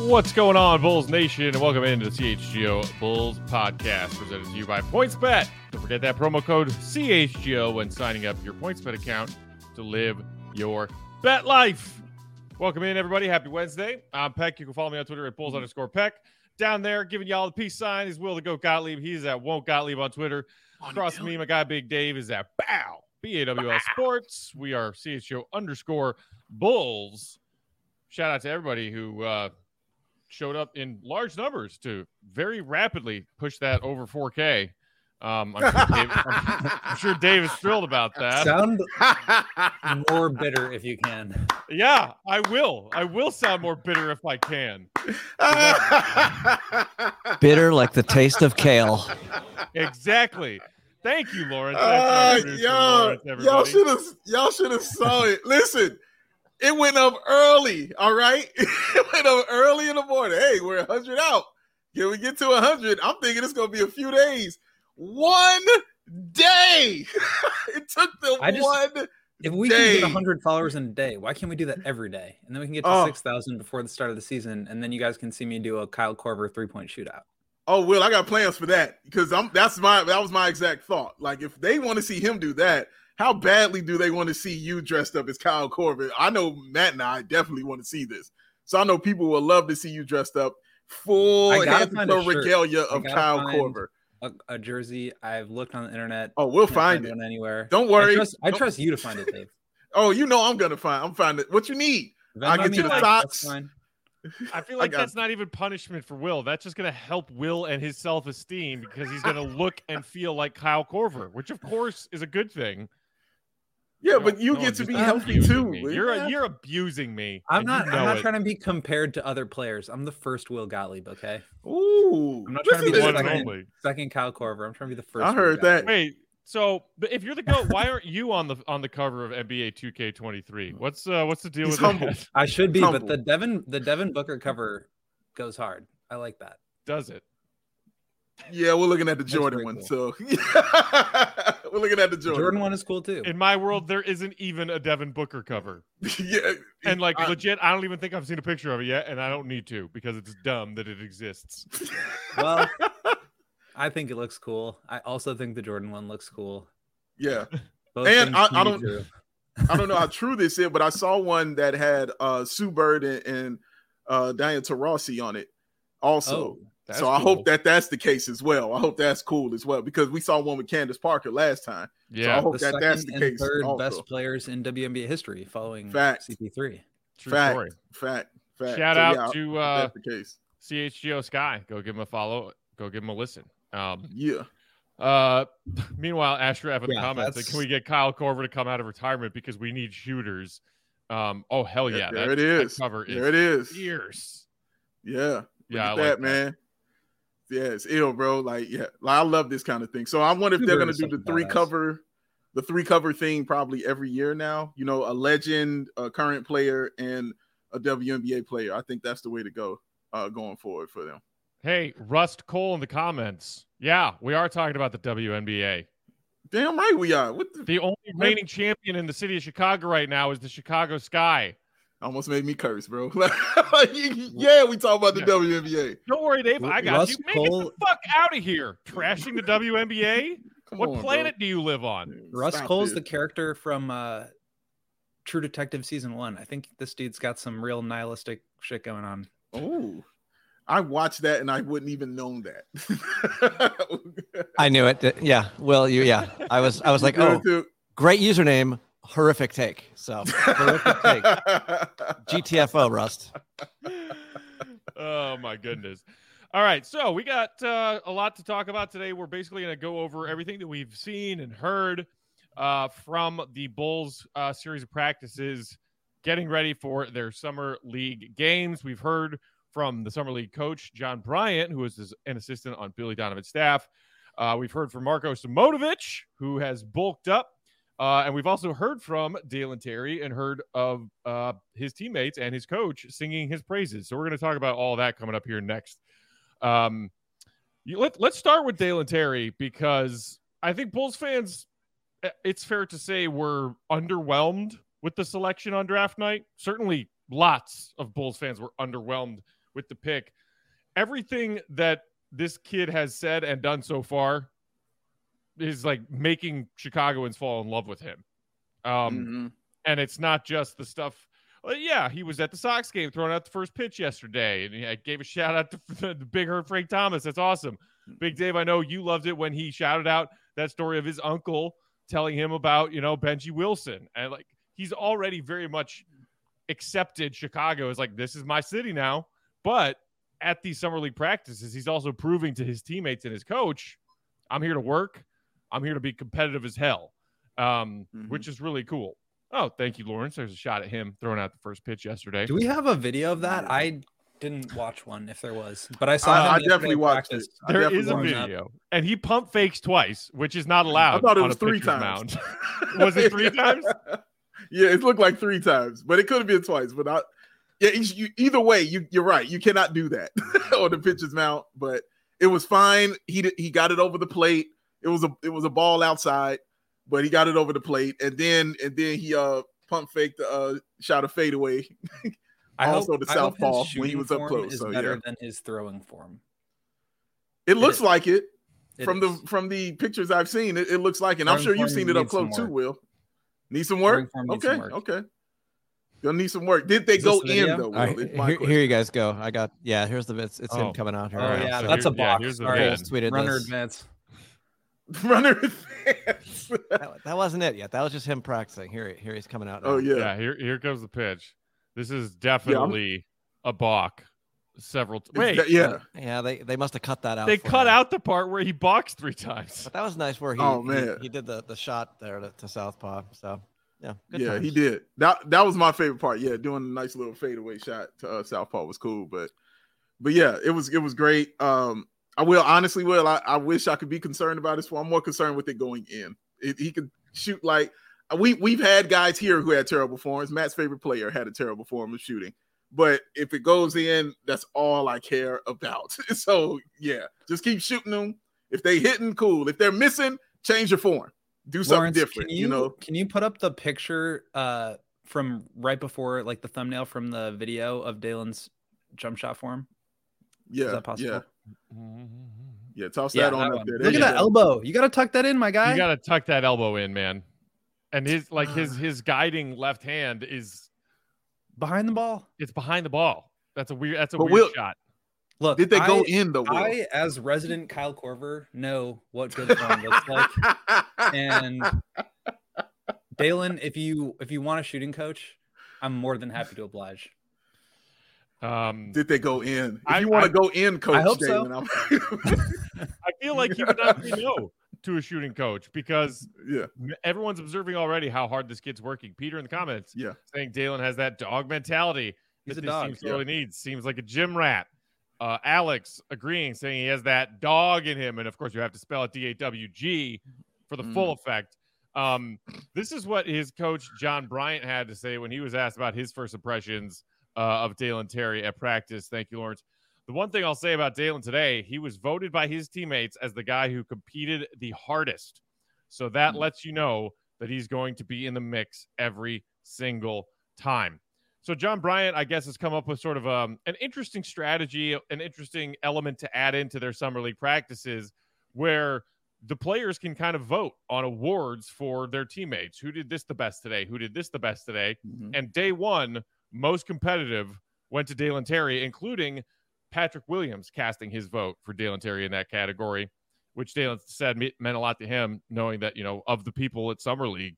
What's going on, Bulls Nation, and welcome into the CHGO Bulls Podcast, presented to you by PointsBet. Don't forget that promo code CHGO when signing up your PointsBet account to live your bet life. Welcome in, everybody. Happy Wednesday. I'm Peck. You can follow me on Twitter at Bulls_Peck. Down there, giving y'all the peace sign is Will the Goat Gottlieb. He's at Won't Gottlieb on Twitter. Across from me, my guy Big Dave is at BAW, BAWL Sports. We are CHGO_Bulls. Shout out to everybody who showed up in large numbers to very rapidly push that over 4K. I'm sure Dave is thrilled about that. Sound more bitter if you can. Yeah, I will. I will sound more bitter if I can. Bitter like the taste of kale. Exactly. Thank you, Lawrence. Y'all should have saw it. Listen, it went up early. All right, it went up early in the morning. Hey, we're 100 out. Can we get to 100? I'm thinking it's gonna be a few days. One day. It took one. If we can get 100 followers in a day, why can't we do that every day? And then we can get to 6,000 before the start of the season, and then you guys can see me do a Kyle Korver 3-point shootout. Oh, Will, I got plans for that because that was my exact thought. Like, if they want to see him do that, how badly do they want to see you dressed up as Kyle Korver? I know Matt and I definitely want to see this, so I know people will love to see you dressed up full regalia of Kyle Korver. A jersey. I've looked on the internet. Oh, we'll find it anywhere. Don't worry. I trust you to find it, Dave. Oh, you know I'm finding it. What you need? I'll get you the socks. I feel like that's not even punishment for Will. That's just going to help Will and his self-esteem because he's going to look and feel like Kyle Korver, which of course is a good thing. Yeah, but you get to be healthy too. You're abusing me. I'm not trying to be compared to other players. I'm the first Will Gottlieb, okay? Ooh. I'm not trying to be the second Kyle Korver. I'm trying to be the first. I heard that. Wait, so if you're the GOAT, why aren't you on the cover of NBA 2K23? What's the deal with that? I should be, but the Devin Booker cover goes hard. I like that. Does it? Yeah, we're looking at the Jordan one. Cool. So we're looking at the Jordan one is cool too. In my world, there isn't even a Devin Booker cover. Yeah, and legit, I don't even think I've seen a picture of it yet, and I don't need to because it's dumb that it exists. Well, I think it looks cool. I also think the Jordan one looks cool. Yeah, and I don't know how true this is, but I saw one that had Sue Bird and Diana Taurasi on it also. So I hope that's the case as well. I hope that's cool as well because we saw one with Candace Parker last time. Yeah, so I hope that's the case. Third also. Best players in WNBA history following CP3. Fact. Shout out to that's the case. CHGO Sky. Go give him a follow. Go give him a listen. Meanwhile, Ashraf in the comments said, can we get Kyle Korver to come out of retirement because we need shooters? Oh hell yeah! There it is. That cover there it is. Fierce. Yeah. Yeah, I like that, man. Yeah, it's ill, bro. Like I love this kind of thing. So I wonder if they're going to do the three cover thing probably every year now. You know, a legend, a current player, and a WNBA player. I think that's the way to go going forward for them. Hey, Rust Cole in the comments. Yeah, we are talking about the WNBA. Damn right we are. The only reigning champion in the city of Chicago right now is the Chicago Sky. Almost made me curse, bro. Yeah, we talk about the WNBA. Don't worry, Dave. I got you. Get the fuck out of here. Trashing the WNBA? What planet do you live on? Russ Cole's the character from True Detective Season 1. I think this dude's got some real nihilistic shit going on. Oh, I watched that and I wouldn't even known that. I knew it. Yeah. Well, I was like, great username. Horrific take. So horrific take. GTFO, Rust. Oh my goodness. All right, so we got a lot to talk about today. We're basically going to go over everything that we've seen and heard from the Bulls series of practices, getting ready for their summer league games. We've heard from the summer league coach John Bryant, who is an assistant on Billy Donovan's staff. We've heard from Marko Simonovic, who has bulked up. And we've also heard from Dalen Terry and heard of his teammates and his coach singing his praises. So we're going to talk about all that coming up here next. Let's start with Dalen Terry because I think Bulls fans, it's fair to say, were underwhelmed with the selection on draft night. Certainly lots of Bulls fans were underwhelmed with the pick. Everything that this kid has said and done so far is like making Chicagoans fall in love with him. And it's not just the stuff. Yeah, he was at the Sox game throwing out the first pitch yesterday, and I gave a shout out to the Big Hurt Frank Thomas. That's awesome. Big Dave, I know you loved it when he shouted out that story of his uncle telling him about, Benji Wilson. And like, he's already very much accepted Chicago as like, this is my city now. But at these summer league practices, he's also proving to his teammates and his coach, I'm here to work. I'm here to be competitive as hell, which is really cool. Oh, thank you, Lawrence. There's a shot at him throwing out the first pitch yesterday. Do we have a video of that? I didn't watch one if there was, but I saw him. I definitely watched it. There is a video, and he pump fakes twice, which is not allowed. I thought it was 3 times. Was it 3 times? Yeah, it looked like 3 times, but it could have been twice. But either way, you're right. You cannot do that on the pitcher's mount. But it was fine. He got it over the plate. It was a ball outside, but he got it over the plate, and then he pump faked the shot a fadeaway. Also the southpaw when he was up close. Is better than his throwing form. It looks like it from the pictures I've seen. It looks like it. And I'm sure you've seen it up close too, Will. Need some work? Okay. You'll need some work. Did they go in though? Right, here you guys go. Here's the bits. It's him coming out here. Oh yeah, so that's a box. Here's the tweeted runner this. advance. Runner advance. that wasn't it yet. That was just him practicing. Here he's coming out now. Oh yeah. Yeah, here comes the pitch. This is definitely a balk. Wait. Yeah, they must have cut that out. They cut out the part where he balks 3 times. But that was nice where he did the shot there to southpaw. So yeah, good times. He did. That was my favorite part. Yeah, doing a nice little fadeaway shot to southpaw was cool. But yeah, it was great. I wish I could be concerned about this one. I'm more concerned with it going in. He could shoot like we've had guys here who had terrible forms. Matt's favorite player had a terrible form of shooting. But if it goes in, that's all I care about. So yeah, just keep shooting them. If they hitting, cool. If they're missing, change your form. Do something different. Can you put up the picture from right before, like the thumbnail from the video of Dalen's jump shot form? Yeah, is that possible? Yeah, toss that on up there. Look at that elbow. You got to tuck that in, my guy. You got to tuck that elbow in, man. And his guiding left hand is behind the ball. It's behind the ball. That's a weird shot. Look, did they go in the? I, as resident Kyle Korver, know what good form looks like. And Dalen, if you want a shooting coach, I'm more than happy to oblige. Did they go in? If you want to go in, coach, I hope Dalen, so. I feel like he would not say no to a shooting coach because everyone's observing already how hard this kid's working. Peter in the comments, saying Dalen has that dog mentality. He's a this dog. Team sorely needs. Seems like a gym rat. Alex agreeing, saying he has that dog in him, and of course you have to spell it DAWG for the full effect. This is what his coach John Bryant had to say when he was asked about his first impressions of Dalen Terry at practice. Thank you, Lawrence. The one thing I'll say about Dalen today, he was voted by his teammates as the guy who competed the hardest. So that lets you know that he's going to be in the mix every single time. So John Bryant, I guess, has come up with sort of an interesting strategy, an interesting element to add into their summer league practices where the players can kind of vote on awards for their teammates. Who did this the best today? Who did this the best today? And day one, most competitive went to Dalen Terry, including Patrick Williams casting his vote for Dalen Terry in that category, which Dalen said meant a lot to him, knowing that, of the people at Summer League,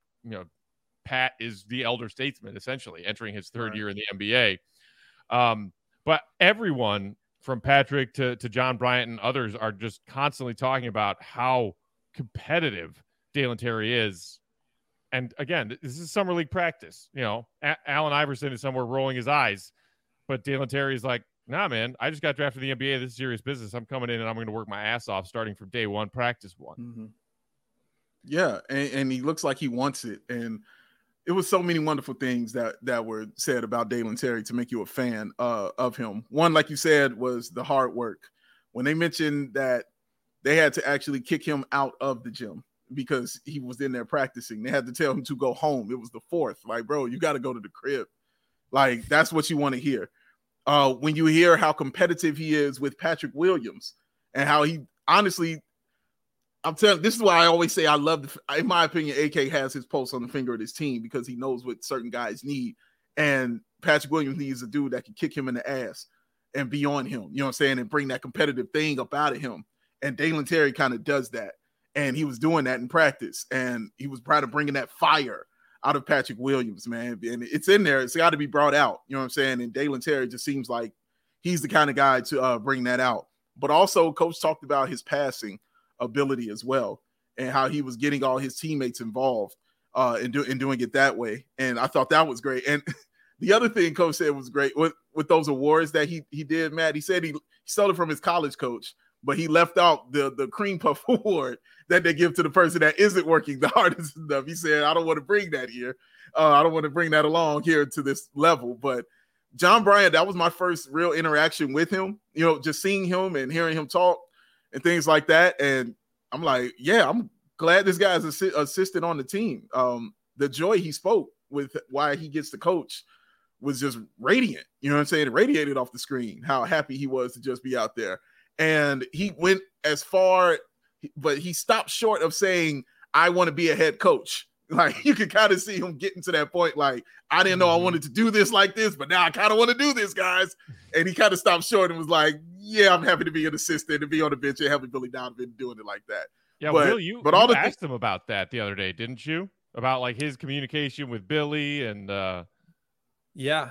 Pat is the elder statesman, essentially, entering his third year in the NBA. But everyone from Patrick to John Bryant and others are just constantly talking about how competitive Dalen Terry is. And again, this is Summer League practice. Allen Iverson is somewhere rolling his eyes, but Dalen Terry is like, nah, man, I just got drafted in the NBA. This is serious business. I'm coming in and I'm going to work my ass off starting from day one, practice one. Yeah, and he looks like he wants it. And it was so many wonderful things that were said about Dalen Terry to make you a fan of him. One, like you said, was the hard work. When they mentioned that they had to actually kick him out of the gym because he was in there practicing, they had to tell him to go home. It was the fourth. Like, bro, you got to go to the crib. Like, that's what you want to hear. when you hear how competitive he is with Patrick Williams and how he honestly, I'm telling, this is why I always say I love, in my opinion, AK has his pulse on the finger of his team because he knows what certain guys need. And Patrick Williams needs a dude that can kick him in the ass and be on him, you know what I'm saying, and bring that competitive thing up out of him. And Dalen Terry kind of does that. And he was doing that in practice. And he was proud of bringing that fire out of Patrick Williams, man. And it's in there. It's got to be brought out, you know what I'm saying? And Dalen Terry just seems like he's the kind of guy to bring that out. But also, Coach talked about his passing ability as well and how he was getting all his teammates involved in doing it that way. And I thought that was great. And the other thing Coach said was great with those awards that he did, Matt. He said he stole it from his college coach, but he left out the cream puff award that they give to the person that isn't working the hardest enough. He said, I don't want to bring that here. I don't want to bring that along here to this level. But John Bryant, that was my first real interaction with him, you know, just seeing him and hearing him talk and things like that. And I'm like, yeah, I'm glad this guy's assistant on the team. The joy he spoke with why he gets to coach was just radiant. You know what I'm saying? It radiated off the screen, how happy he was to just be out there. And he went as far, but he stopped short of saying, I want to be a head coach. Like, you could kind of see him getting to that point. Like, I didn't know I wanted to do this like this, but now I kind of want to do this, guys. And he kind of stopped short and was like, yeah, I'm happy to be an assistant and be on the bench and helping Billy Donovan doing it like that. Yeah, but, Will, you asked him about that the other day, didn't you? About like his communication with Billy and Yeah.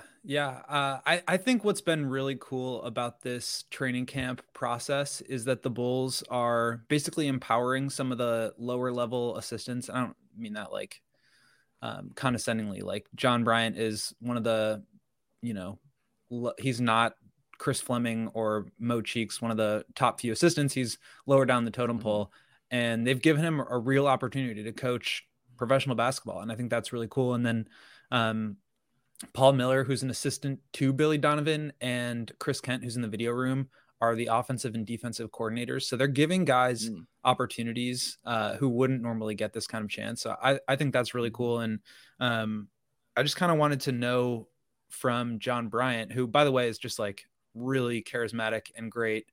I think what's been really cool about this training camp process is that the Bulls are basically empowering some of the lower level assistants. I don't mean that like condescendingly. Like John Bryant is one of the, you know, he's not Chris Fleming or Mo Cheeks, one of the top few assistants. He's lower down the totem pole, and they've given him a real opportunity to coach professional basketball. And I think that's really cool. And then Paul Miller, who's an assistant to Billy Donovan, and Chris Kent, who's in the video room, are the offensive and defensive coordinators. So they're giving guys opportunities who wouldn't normally get this kind of chance. So I think that's really cool. And I just kind of wanted to know from John Bryant, who, by the way, is just like really charismatic and great,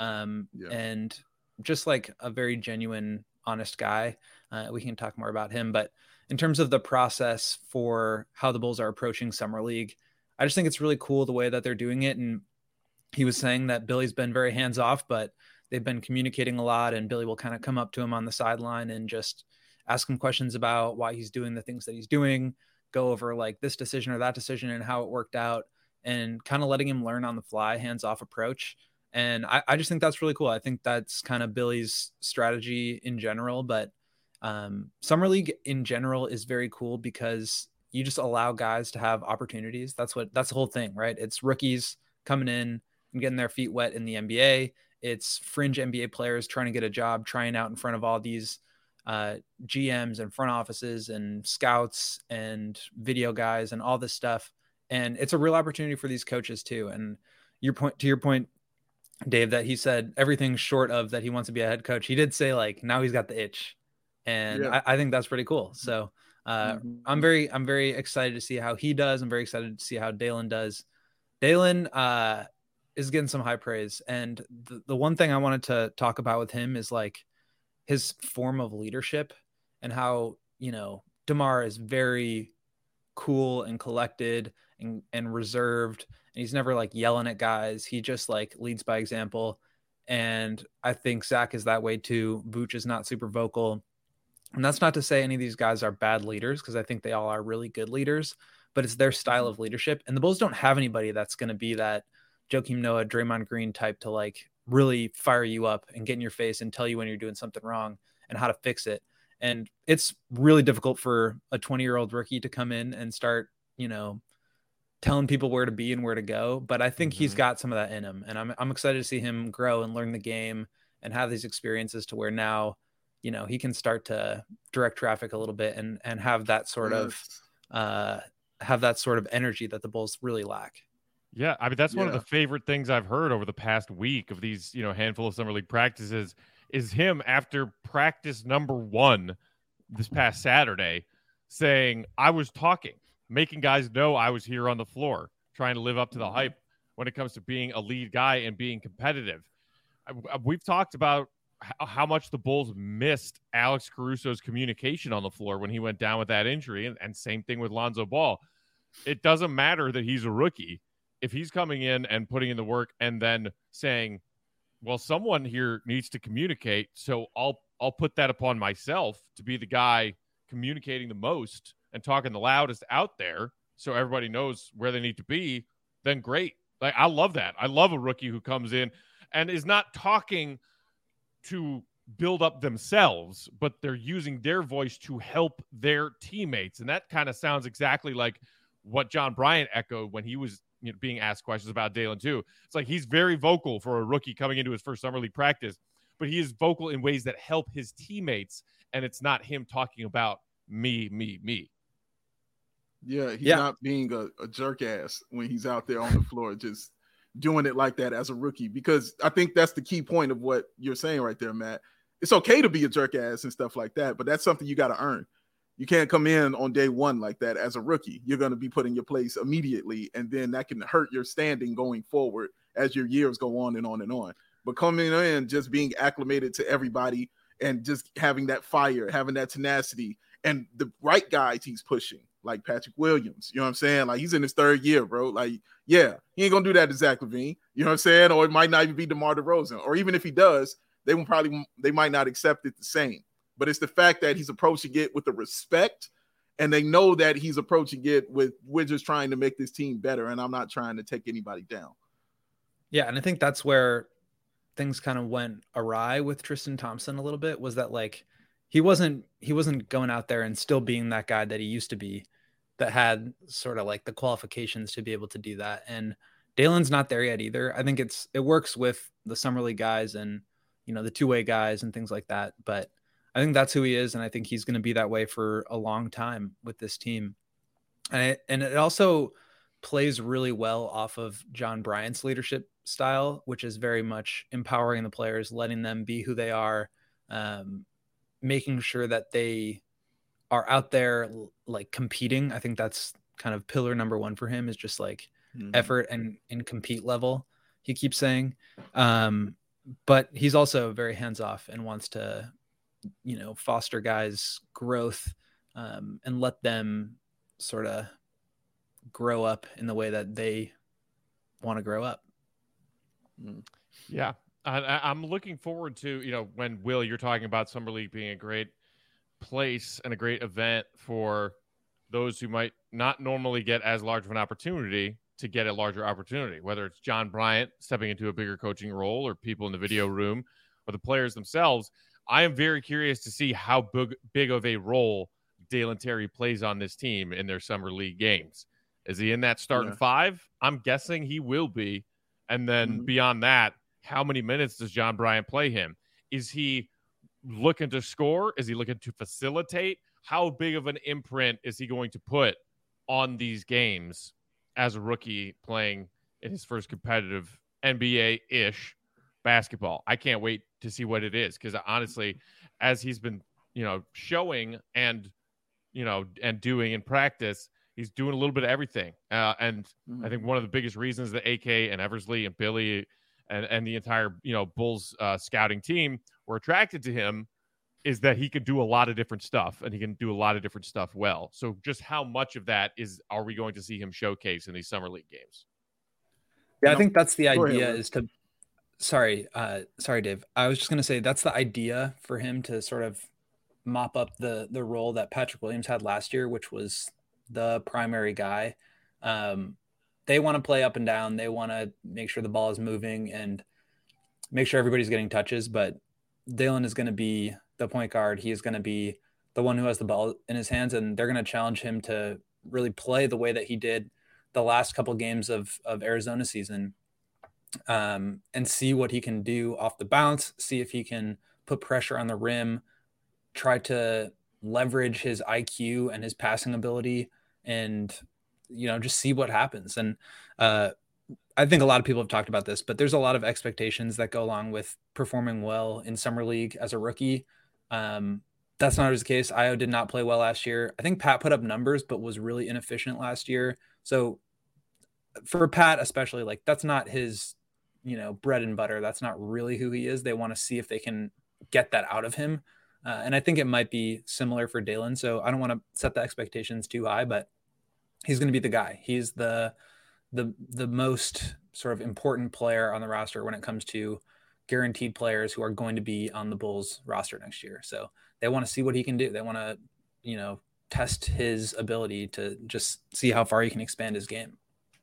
and just like a very genuine, honest guy. We can talk more about him, but in terms of the process for how the Bulls are approaching Summer League, I just think it's really cool the way that they're doing it. And he was saying that Billy's been very hands off, but they've been communicating a lot, and Billy will kind of come up to him on the sideline and just ask him questions about why he's doing the things that he's doing, go over like this decision or that decision and how it worked out, and kind of letting him learn on the fly, hands off approach. And I just think that's really cool. I think that's kind of Billy's strategy in general, but Summer League in general is very cool because you just allow guys to have opportunities. That's the whole thing, right? It's rookies coming in and getting their feet wet in the NBA. It's fringe NBA players trying to get a job, trying out in front of all these GMs and front offices and scouts and video guys and all this stuff. And it's a real opportunity for these coaches too. And to your point, Dave, that he said everything short of that he wants to be a head coach. He did say like, now he's got the itch. And I think that's pretty cool. So I'm very excited to see how he does. I'm very excited to see how Dalen does. Dalen is getting some high praise. And the one thing I wanted to talk about with him is like his form of leadership and how, you know, DeMar is very cool and collected and reserved. And he's never like yelling at guys. He just like leads by example. And I think Zach is that way too. Vooch is not super vocal. And that's not to say any of these guys are bad leaders, because I think they all are really good leaders, but it's their style of leadership. And the Bulls don't have anybody that's going to be that Joakim Noah, Draymond Green type to like really fire you up and get in your face and tell you when you're doing something wrong and how to fix it. And it's really difficult for a 20-year-old rookie to come in and start, you know, telling people where to be and where to go. But I think he's got some of that in him. And I'm excited to see him grow and learn the game and have these experiences to where now, you know, he can start to direct traffic a little bit and have that sort of energy that the Bulls really lack. Yeah, I mean, that's one of the favorite things I've heard over the past week of these, you know, handful of Summer League practices is him after practice number 1 this past Saturday saying, I was talking, making guys know I was here on the floor, trying to live up to the hype when it comes to being a lead guy and being competitive. We've talked about how much the Bulls missed Alex Caruso's communication on the floor when he went down with that injury, and same thing with Lonzo Ball. It doesn't matter that he's a rookie. If he's coming in and putting in the work and then saying, well, someone here needs to communicate, so I'll put that upon myself to be the guy communicating the most and talking the loudest out there so everybody knows where they need to be, then great. Like, I love that. I love a rookie who comes in and is not talking to build up themselves, but they're using their voice to help their teammates. And that kind of sounds exactly like what John Bryant echoed when he was being asked questions about Dalen too. It's like he's very vocal for a rookie coming into his first summer league practice, but he is vocal in ways that help his teammates, and it's not him talking about me. Yeah, he's not being a jerk ass when he's out there on the floor, just doing it like that as a rookie, because I think that's the key point of what you're saying right there, Matt. It's okay to be a jerk ass and stuff like that, but that's something you got to earn. You can't come in on day one like that as a rookie. You're going to be put in your place immediately, and then that can hurt your standing going forward as your years go on and on and on. But coming in, just being acclimated to everybody and just having that fire, having that tenacity, and the right guys he's pushing, like Patrick Williams. You know what I'm saying? Like, he's in his third year, bro. Like, yeah, he ain't going to do that to Zach LaVine. You know what I'm saying? Or it might not even be DeMar DeRozan. Or even if he does, they might not accept it the same. But it's the fact that he's approaching it with the respect, and they know that he's approaching it with, we're just trying to make this team better, and I'm not trying to take anybody down. Yeah, and I think that's where things kind of went awry with Tristan Thompson a little bit, was that, like, he wasn't going out there and still being that guy that he used to be, that had sort of like the qualifications to be able to do that. And Dalen's not there yet either. I think it works with the summer league guys and, the two-way guys and things like that. But I think that's who he is, and I think he's going to be that way for a long time with this team. And it also plays really well off of John Bryant's leadership style, which is very much empowering the players, letting them be who they are, making sure that they are out there like competing. I think that's kind of pillar number one for him, is just like effort and compete level, he keeps saying. But he's also very hands-off and wants to, foster guys' growth, and let them sort of grow up in the way that they want to grow up. Yeah. I'm looking forward to, when, Will, you're talking about Summer League being a great place and a great event for those who might not normally get as large of an opportunity to get a larger opportunity, whether it's John Bryant stepping into a bigger coaching role, or people in the video room, or the players themselves. I am very curious to see how big of a role Dalen Terry plays on this team in their Summer League games. Is he in that starting five? I'm guessing he will be. And then beyond that, how many minutes does John Bryant play him? Is he looking to score? Is he looking to facilitate? How big of an imprint is he going to put on these games as a rookie playing in his first competitive NBA-ish basketball? I can't wait to see what it is, because honestly, as he's been, showing and doing in practice, he's doing a little bit of everything. And I think one of the biggest reasons that AK and Eversley and Billy and the entire, Bulls scouting team were attracted to him is that he can do a lot of different stuff, and he can do a lot of different stuff well. So just how much of that are we going to see him showcase in these Summer League games? Yeah, I think that's the idea, is to, sorry, Dave. I was just going to say that's the idea for him, to sort of mop up the role that Patrick Williams had last year, which was the primary guy. They want to play up and down. They want to make sure the ball is moving and make sure everybody's getting touches. But Dalen is going to be the point guard. He is going to be the one who has the ball in his hands, and they're going to challenge him to really play the way that he did the last couple of games of Arizona season, and see what he can do off the bounce, see if he can put pressure on the rim, try to leverage his IQ and his passing ability, and just see what happens. And I think a lot of people have talked about this, but there's a lot of expectations that go along with performing well in Summer League as a rookie. That's not always the case. Io did not play well last year. I think Pat put up numbers, but was really inefficient last year. So for Pat, especially, like that's not his, bread and butter. That's not really who he is. They want to see if they can get that out of him. And I think it might be similar for Dalen. So I don't want to set the expectations too high, but he's going to be the guy. He's the most sort of important player on the roster when it comes to guaranteed players who are going to be on the Bulls roster next year. So they want to see what he can do. They want to, test his ability to just see how far he can expand his game.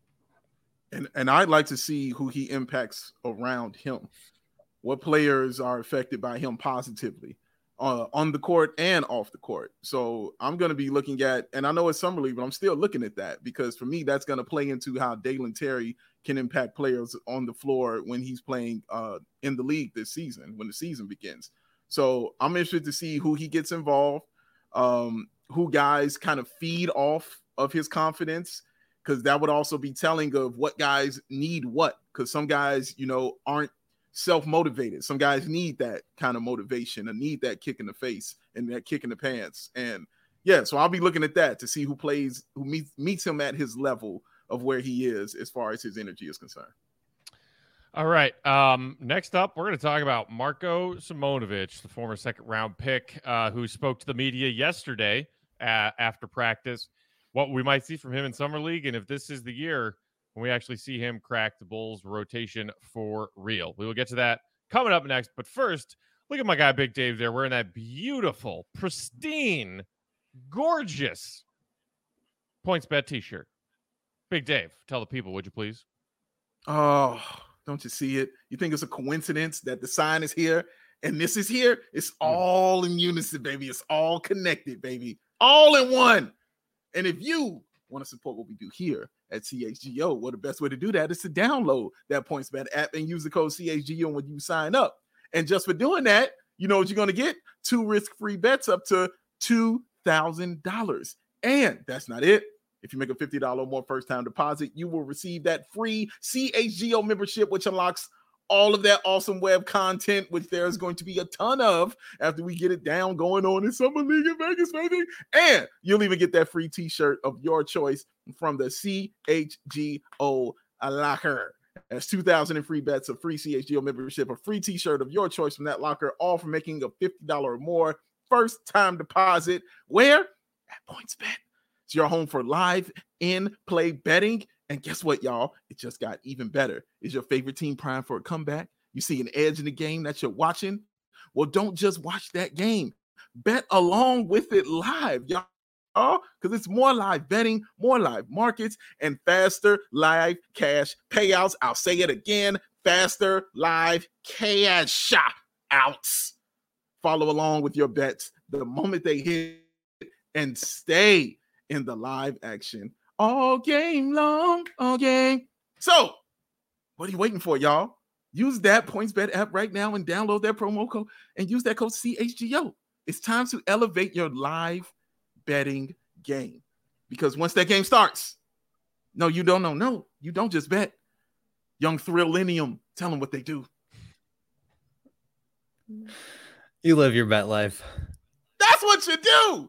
And I'd like to see who he impacts around him. What players are affected by him positively on the court and off the court. So I'm going to be looking at, and I know it's summer league, but I'm still looking at that because for me, that's going to play into how Dalen Terry can impact players on the floor when he's playing in the league this season, when the season begins. So I'm interested to see who he gets involved, who guys kind of feed off of his confidence, because that would also be telling of what guys need what, because some guys, aren't self-motivated. Some guys need that kind of motivation and need that kick in the face and that kick in the pants. And yeah, so I'll be looking at that to see who meets him at his level of where he is as far as his energy is concerned. All right. Next up, we're going to talk about Marko Simonovic, the former second-round pick who spoke to the media yesterday after practice, what we might see from him in Summer League, and if this is the year when we actually see him crack the Bulls rotation for real. We will get to that coming up next. But first, look at my guy, Big Dave, there wearing that beautiful, pristine, gorgeous PointsBet t-shirt. Big Dave, tell the people, would you please? Oh, don't you see it? You think it's a coincidence that the sign is here and this is here? It's all in unison, baby. It's all connected, baby. All in one. And if you want to support what we do here at CHGO, well, the best way to do that is to download that PointsBet app and use the code CHGO when you sign up. And just for doing that, you know what you're going to get? 2 risk-free bets up to $2,000. And that's not it. If you make a $50 or more first-time deposit, you will receive that free CHGO membership, which unlocks all of that awesome web content, which there's going to be a ton of after we get it down going on in Summer League in Vegas, baby. And you'll even get that free t-shirt of your choice from the CHGO locker. That's 2,000 in free bets, a free CHGO membership, a free t-shirt of your choice from that locker, all for making a $50 or more first-time deposit. Where? At PointsBet. It's your home for live in-play betting. And guess what, y'all? It just got even better. Is your favorite team primed for a comeback? You see an edge in the game that you're watching? Well, don't just watch that game. Bet along with it live, y'all. Because it's more live betting, more live markets, and faster live cash payouts. I'll say it again. Faster live cash outs. Follow along with your bets the moment they hit and stay in the live action all game long, all game. So, what are you waiting for, y'all? Use that PointsBet app right now and download that promo code and use that code CHGO. It's time to elevate your live betting game. Because once that game starts, no, you don't know. No, you don't just bet. Young Thrillennium, tell them what they do. You live your bet life. That's what you do.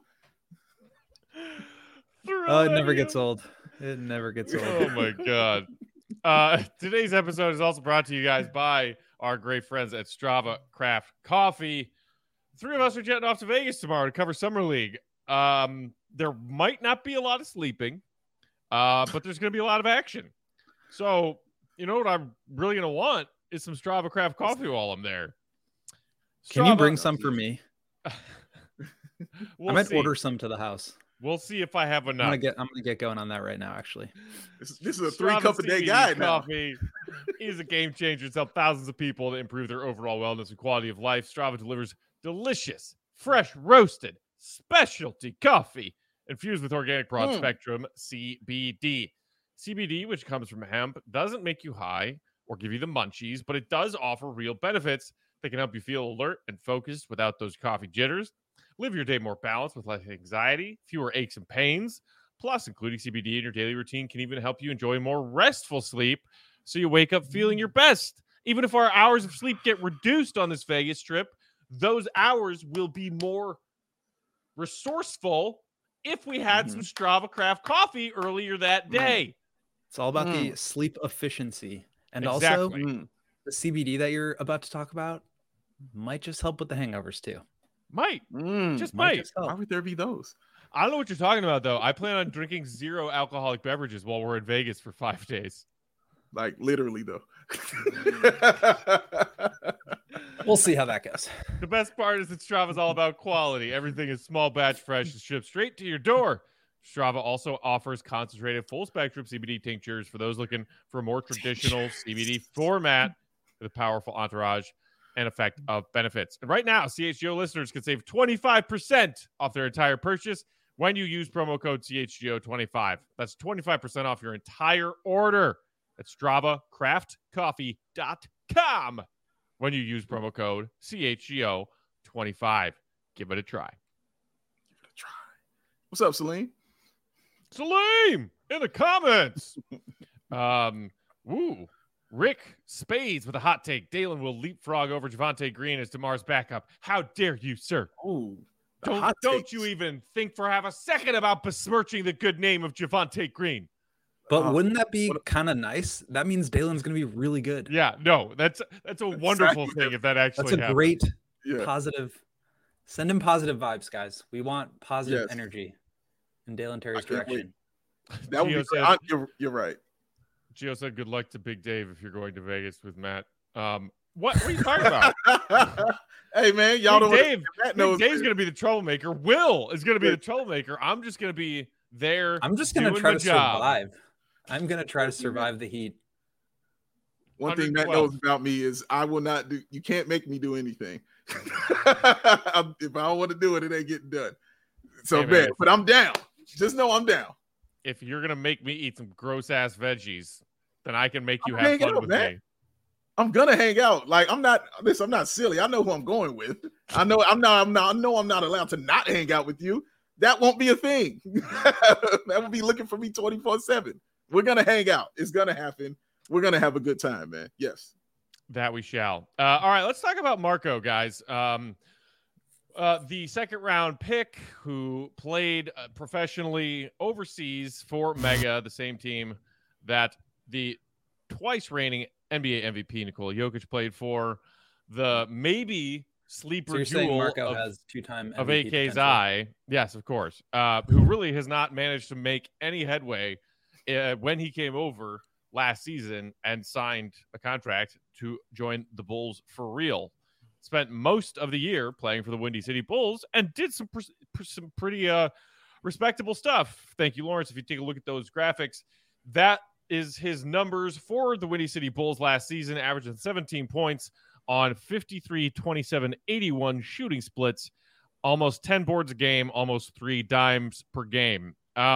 Oh, it never gets old. It never gets old. Oh my God. Today's episode is also brought to you guys by our great friends at Strava Craft Coffee. 3 of us are jetting off to Vegas tomorrow to cover Summer League. There might not be a lot of sleeping, but there's going to be a lot of action. So, you know what I'm really going to want is some Strava Craft Coffee while I'm there. Can you bring some for me? I might see. order some to the house. We'll see if I have enough. I'm gonna get going on that right now. Actually, this is a 3-cup-a-day guy now. Coffee is a game changer. It's helped thousands of people to improve their overall wellness and quality of life. Strava delivers delicious, fresh roasted, specialty coffee infused with organic broad spectrum CBD. CBD, which comes from hemp, doesn't make you high or give you the munchies, but it does offer real benefits that can help you feel alert and focused without those coffee jitters. Live your day more balanced with less anxiety, fewer aches and pains. Plus, including CBD in your daily routine can even help you enjoy more restful sleep so you wake up feeling your best. Even if our hours of sleep get reduced on this Vegas trip, those hours will be more resourceful if we had some Strava Craft coffee earlier that day. It's all about the sleep efficiency. And exactly. also the CBD that you're about to talk about might just help with the hangovers too. Might. Just might. Why would there be those? I don't know what you're talking about, though. I plan on drinking 0 alcoholic beverages while we're in Vegas for 5 days. Like, literally, though. We'll see how that goes. The best part is that Strava is all about quality. Everything is small batch, fresh, and shipped straight to your door. Strava also offers concentrated full-spectrum CBD tinctures for those looking for a more traditional CBD format with a powerful entourage and effect of benefits. And right now, CHGO listeners can save 25% off their entire purchase when you use promo code CHGO25. That's 25% off your entire order at StravaCraftCoffee.com when you use promo code CHGO25. Give it a try. What's up, Salim? Salim in the comments. Rick Spades with a hot take. Dalen will leapfrog over Javonte Green as DeMar's backup. How dare you, sir? Don't you even think for half a second about besmirching the good name of Javonte Green. But wouldn't that be kind of nice? That means Dalen's going to be really good. Yeah, no, that's a wonderful thing if that actually happens. That's a great positive. Send him positive vibes, guys. We want positive energy in Dalen Terry's direction. That would be you're right. Gio said, "Good luck to Big Dave if you're going to Vegas with Matt." What are you talking about? Hey man, y'all don't. Dave, Dave's going to be the troublemaker. Will is going to be the troublemaker. I'm just going to be there. I'm just going to try to survive. I'm going to try to survive the heat. One thing Matt knows about me is I will not do. You can't make me do anything. If I don't want to do it, it ain't getting done. So hey, man, but I'm down. Just know I'm down. If you're gonna make me eat some gross ass veggies, then I can make you have fun with me. I'm gonna hang out. Like I'm not silly. I know who I'm going with. I know I'm not allowed to not hang out with you. That won't be a thing. That will be looking for me 24/7. We're gonna hang out. It's gonna happen. We're gonna have a good time, man. Yes, that we shall. All right, let's talk about Marco, guys. The second round pick who played professionally overseas for Mega, the same team that the twice reigning NBA MVP Nikola Jokic played for. The maybe sleeper so you're jewel saying Marco has two-time MVP of AK's potential. Eye. Yes, of course. Who really has not managed to make any headway when he came over last season and signed a contract to join the Bulls for real. Spent most of the year playing for the Windy City Bulls and did some pretty respectable stuff. Thank you, Lawrence. If you take a look at those graphics, that is his numbers for the Windy City Bulls last season, averaging 17 points on 53, 27, 81 shooting splits, almost 10 boards a game, almost 3 dimes per game.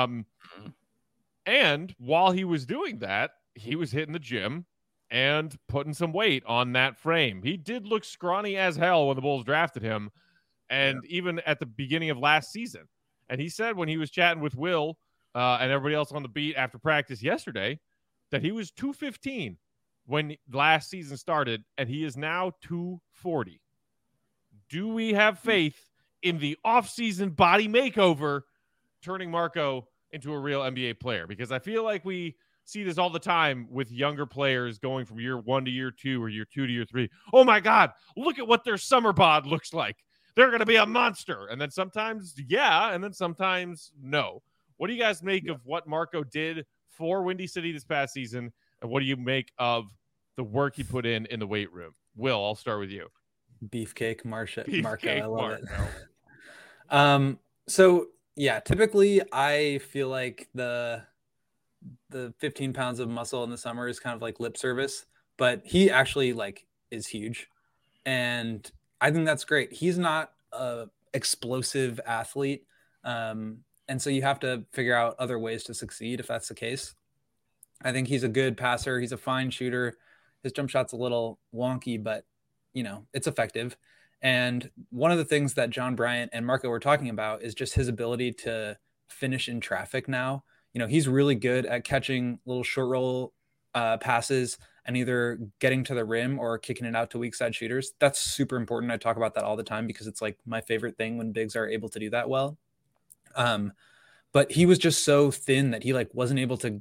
And while he was doing that, he was hitting the gym and putting some weight on that frame. He did look scrawny as hell when the Bulls drafted him, and even at the beginning of last season. And he said when he was chatting with Will and everybody else on the beat after practice yesterday that he was 215 when last season started, and he is now 240. Do we have faith in the offseason body makeover turning Marco into a real NBA player? Because I feel like we see this all the time with younger players going from year 1 to year 2 or year 2 to year 3. Oh my God, look at what their summer bod looks like. They're going to be a monster. And then sometimes, and then sometimes no. What do you guys make of what Marco did for Windy City this past season? And what do you make of the work he put in the weight room? Will, I'll start with you. Beefcake Marco. I love it. So yeah, typically I feel like the 15 pounds of muscle in the summer is kind of like lip service, but he actually is huge. And I think that's great. He's not a explosive athlete. And so you have to figure out other ways to succeed if that's the case. I think he's a good passer. He's a fine shooter. His jump shot's a little wonky, but it's effective. And one of the things that John Bryant and Marco were talking about is just his ability to finish in traffic now. He's really good at catching little short roll passes and either getting to the rim or kicking it out to weak side shooters. That's super important. I talk about that all the time because it's my favorite thing when bigs are able to do that well. But he was just so thin that he wasn't able to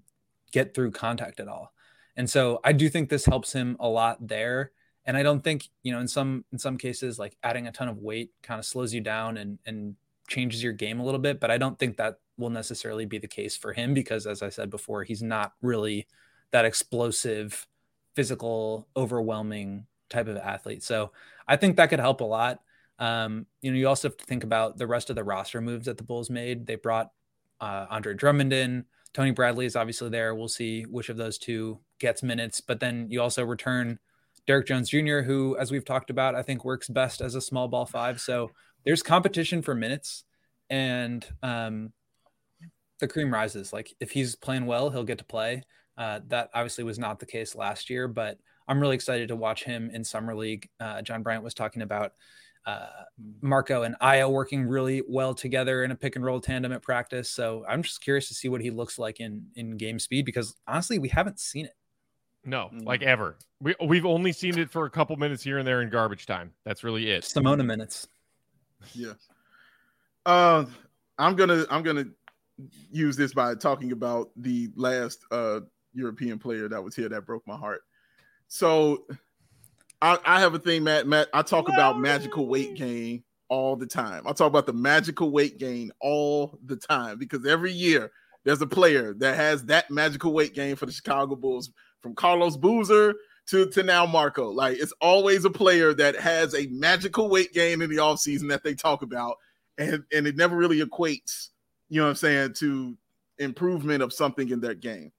get through contact at all. And so I do think this helps him a lot there. And I don't think, in some cases, like adding a ton of weight kind of slows you down and changes your game a little bit. But I don't think that will necessarily be the case for him because, as I said before, he's not really that explosive, physical, overwhelming type of athlete. So I think that could help a lot. You also have to think about the rest of the roster moves that the Bulls made. They brought Andre Drummond in. Tony Bradley is obviously there. We'll see which of those two gets minutes. But then you also return Derrick Jones Jr., who, as we've talked about, I think works best as a small ball 5. So there's competition for minutes, and the cream rises. Like if he's playing well, he'll get to play. That obviously was not the case last year, but I'm really excited to watch him in Summer League. John Bryant was talking about Marco and Aya working really well together in a pick and roll tandem at practice. So I'm just curious to see what he looks like in game speed, because honestly, we haven't seen it. No, like ever. We've only seen it for a couple minutes here and there in garbage time. That's really it. Simona minutes. Yeah. I'm gonna use this by talking about the last European player that was here that broke my heart. So I have a thing, Matt. I talk about magical weight gain all the time. I talk about the magical weight gain all the time because every year there's a player that has that magical weight gain for the Chicago Bulls, from Carlos Boozer to now Marco. Like, it's always a player that has a magical weight gain in the offseason that they talk about, and it never really equates, you know what I'm saying, to improvement of something in their game.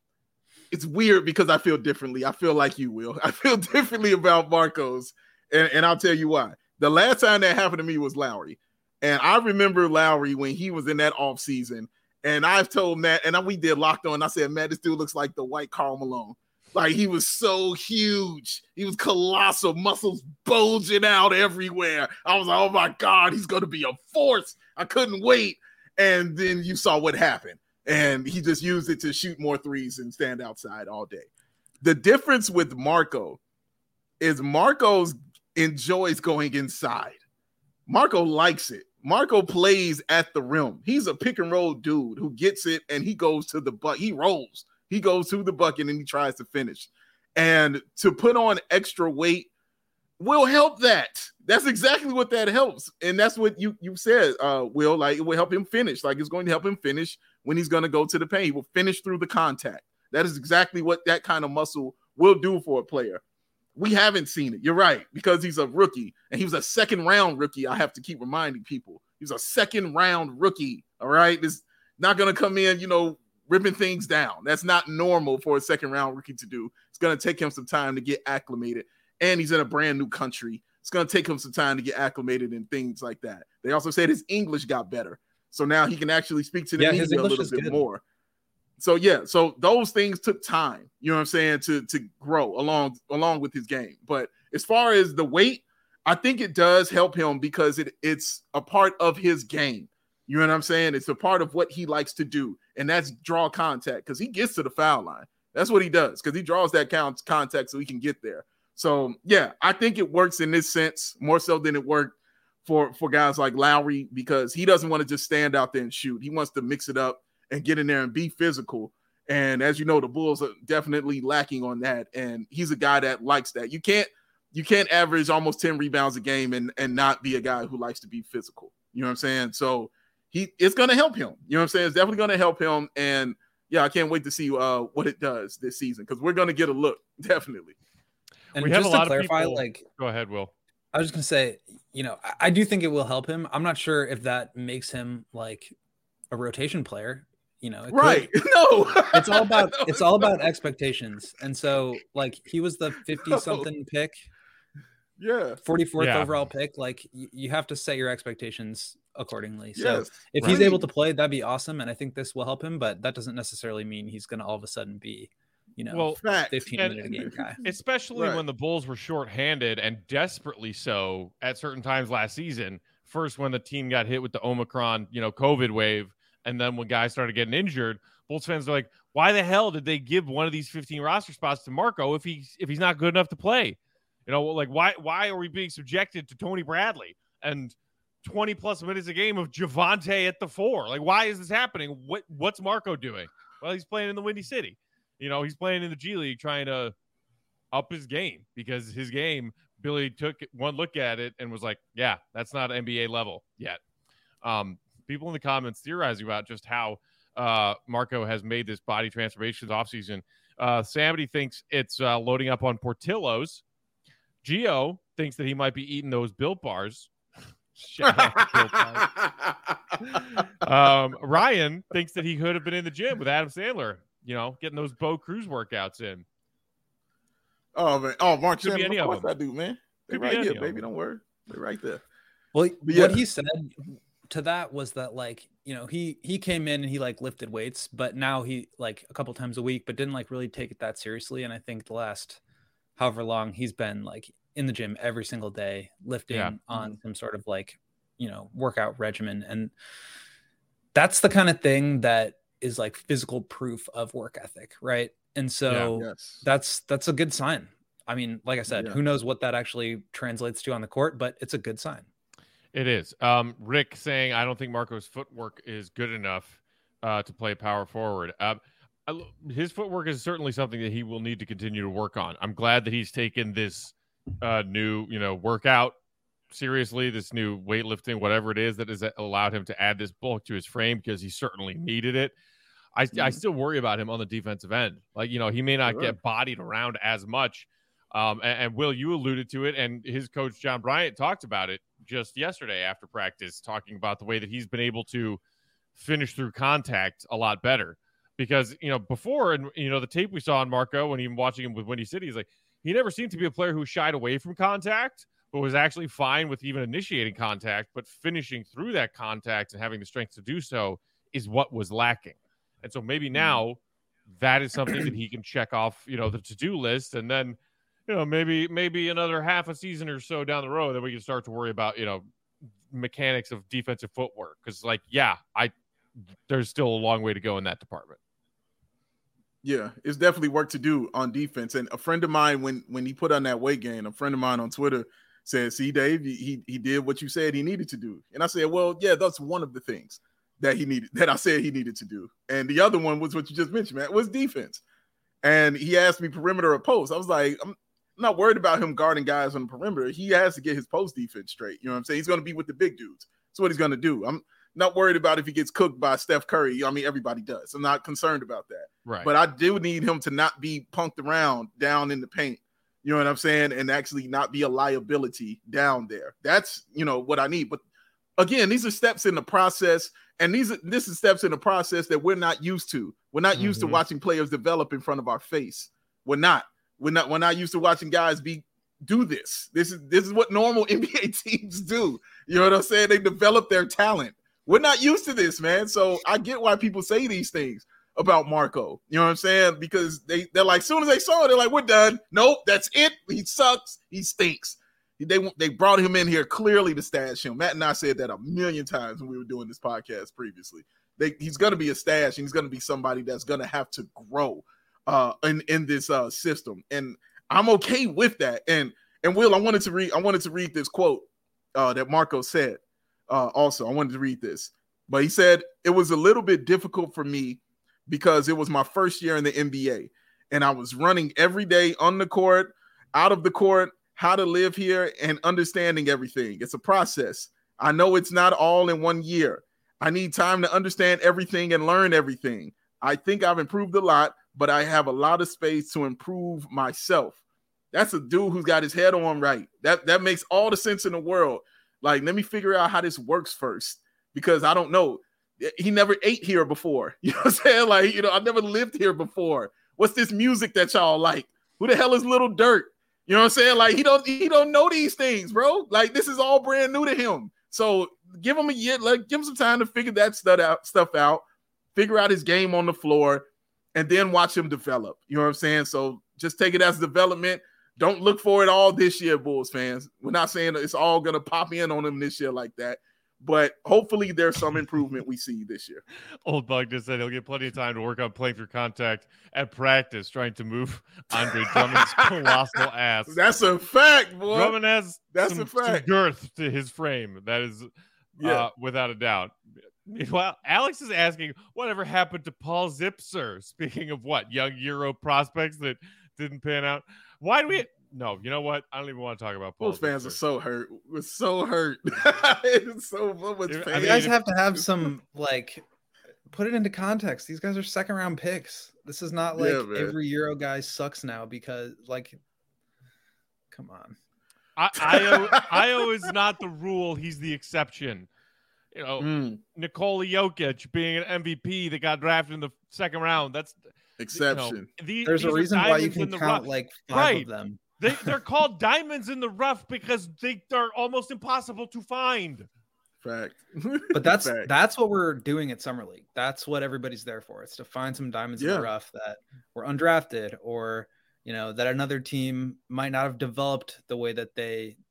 It's weird because I feel differently. I feel like you, Will. I feel differently about Marcos, and I'll tell you why. The last time that happened to me was Lowry, and I remember Lowry when he was in that offseason, and I've told Matt, and we did Locked On, I said, Matt, this dude looks like the white Karl Malone. Like, he was so huge. He was colossal, muscles bulging out everywhere. I was like, oh, my God, he's going to be a force. I couldn't wait. And then you saw what happened. And he just used it to shoot more threes and stand outside all day. The difference with Marco is Marco enjoys going inside. Marco likes it. Marco plays at the rim. He's a pick and roll dude who gets it and he goes to the bucket. He rolls. He goes to the bucket and he tries to finish. And to put on extra weight will help that. That's exactly what that helps. And that's what you said, Will. Like, it will help him finish. Like, it's going to help him finish when he's going to go to the paint. He will finish through the contact. That is exactly what that kind of muscle will do for a player. We haven't seen it. You're right, because he's a rookie, and he was a second-round rookie. I have to keep reminding people. He's a second-round rookie, all right? It's not going to come in, ripping things down. That's not normal for a second-round rookie to do. It's going to take him some time to get acclimated, and he's in a brand-new country. It's going to take him some time to get acclimated and things like that. They also said his English got better, so now he can actually speak to the media a little bit more. So, so those things took time, you know what I'm saying, to grow along with his game. But as far as the weight, I think it does help him because it's a part of his game. You know what I'm saying? It's a part of what he likes to do, and that's draw contact because he gets to the foul line. That's what he does, because he draws that contact so he can get there. So, yeah, I think it works in this sense more so than it worked for guys like Lowry, because he doesn't want to just stand out there and shoot. He wants to mix it up and get in there and be physical. And as you know, the Bulls are definitely lacking on that. And he's a guy that likes that. You can't average almost 10 rebounds a game and not be a guy who likes to be physical. You know what I'm saying? So it's going to help him. You know what I'm saying? It's definitely going to help him. And yeah, I can't wait to see what it does this season, because we're going to get a look, definitely. And we have just a lot to clarify, of people. Go ahead, Will. I was just going to say, I do think it will help him. I'm not sure if that makes him like a rotation player. Right. No, it's all about expectations. And so, like, he was the 50-something pick. Yeah. 44th overall pick. Like, you have to set your expectations accordingly. So if he's able to play, that'd be awesome. And I think this will help him, but that doesn't necessarily mean he's going to all of a sudden be, 15-minute a game guy. Especially when the Bulls were shorthanded and desperately so at certain times last season. First, when the team got hit with the Omicron, COVID wave. And then when guys started getting injured, Bulls fans are like, why the hell did they give one of these 15 roster spots to Marco if he's not good enough to play? Why are we being subjected to Tony Bradley and 20 plus minutes a game of Javonte at the 4? Like, why is this happening? What's Marco doing? Well, he's playing in the Windy City. He's playing in the G League, trying to up his game, because his game, Billy took one look at it and was like, yeah, that's not NBA level yet. People in the comments theorizing about just how Marco has made this body transformations offseason. Somebody thinks it's loading up on Portillo's. Gio thinks that he might be eating those Built Bars. Shout out to Built Bars. Ryan thinks that he could have been in the gym with Adam Sandler, getting those Bo Cruz workouts in. Oh, man. Oh, Mark Could Sandler, of course I do, man. They're right here, baby. Don't worry. They're right there. Well, what he said to that was that, like, he came in and he like lifted weights, but now he like a couple times a week, but didn't like really take it that seriously. And I think the last however long he's been like in the gym every single day, lifting on some sort of like, workout regimen. And that's the kind of thing that is like physical proof of work ethic. Right. And so that's a good sign. I mean, like I said, who knows what that actually translates to on the court, but it's a good sign. It is. Rick saying, I don't think Marco's footwork is good enough to play power forward. His footwork is certainly something that he will need to continue to work on. I'm glad that he's taken this new, workout seriously, this new weightlifting, whatever it is that has allowed him to add this bulk to his frame, because he certainly needed it. I still worry about him on the defensive end. Like, he may not get bodied around as much. And Will, you alluded to it, and his coach, John Bryant, talked about it just yesterday after practice, talking about the way that he's been able to finish through contact a lot better. Because, before, and, the tape we saw on Marco when even watching him with Windy City, is like, he never seemed to be a player who shied away from contact, but was actually fine with even initiating contact, but finishing through that contact and having the strength to do so is what was lacking. And so maybe now that is something that he can check off, the to-do list. And then, maybe another half a season or so down the road, then we can start to worry about, mechanics of defensive footwork. Because, there's still a long way to go in that department. Yeah, it's definitely work to do on defense. And a friend of mine, when he put on that weight gain, a friend of mine on Twitter said, see, Dave, he did what you said he needed to do. And I said, well, yeah, that's one of the things that I said he needed to do. And the other one was what you just mentioned, man, was defense. And he asked me perimeter or post. I was like, I'm not worried about him guarding guys on the perimeter. He has to get his post defense straight. You know what I'm saying? He's going to be with the big dudes. That's what he's going to do. I'm not worried about if he gets cooked by Steph Curry. I mean, everybody does. I'm not concerned about that. Right. But I do need him to not be punked around down in the paint. You know what I'm saying? And actually not be a liability down there. That's, what I need. But again, these are steps in the process. And this is steps in the process that we're not used to. We're not used to watching players develop in front of our face. We're not used to watching guys do this. This is what normal NBA teams do. You know what I'm saying? They develop their talent. We're not used to this, man. So I get why people say these things about Marco. You know what I'm saying? Because they're like, as soon as they saw it, they're like, we're done. Nope, that's it. He sucks. He stinks. They brought him in here clearly to stash him. Matt and I said that a million times when we were doing this podcast previously. He's going to be a stash, and he's going to be somebody that's going to have to grow in this system. And I'm okay with that. And Will, I wanted to read this quote that Marco said. Also, I wanted to read this, but he said, it was a little bit difficult for me because it was my first year in the NBA, and I was running every day on the court, out of the court, how to live here, and understanding everything. It's a process. I know it's not all in 1 year. I need time to understand everything and learn everything. I think I've improved a lot, but I have a lot of space to improve myself. That's a dude who's got his head on right. That makes all the sense in the world. Like, let me figure out how this works first, because I don't know. He never ate here before. You know what I'm saying? Like, I've never lived here before. What's this music that y'all like? Who the hell is Lil Durk? You know what I'm saying? Like, he don't know these things, bro. Like, this is all brand new to him. So give him a year, give him some time to figure that stuff out, figure out his game on the floor, and then watch him develop. You know what I'm saying? So just take it as development. Don't look for it all this year, Bulls fans. We're not saying it's all going to pop in on him this year like that, but hopefully there's some improvement we see this year. Old Bug just said he'll get plenty of time to work on playing through contact at practice, trying to move Andre Drummond's colossal ass. That's a fact, boy. Drummond has some girth to his frame. That is without a doubt. Meanwhile, Alex is asking, whatever happened to Paul Zipser? Speaking of what, young Euro prospects that didn't pan out. Why do we? No, you know what? I don't even want to talk about Paul. Those fans are so hurt. We're so hurt. It's so much pain. You guys have to have some put it into context. These guys are second round picks. This is not like every Euro guy sucks now because come on. Io is not the rule. He's the exception. You know, Nikola Jokic being an MVP that got drafted in the second round. That's exception. There's a reason why you can count five of them. They're called diamonds in the rough because they're almost impossible to find. Fact. But that's what we're doing at Summer League. That's what everybody's there for. It's to find some diamonds in the rough that were undrafted or, that another team might not have developed the way that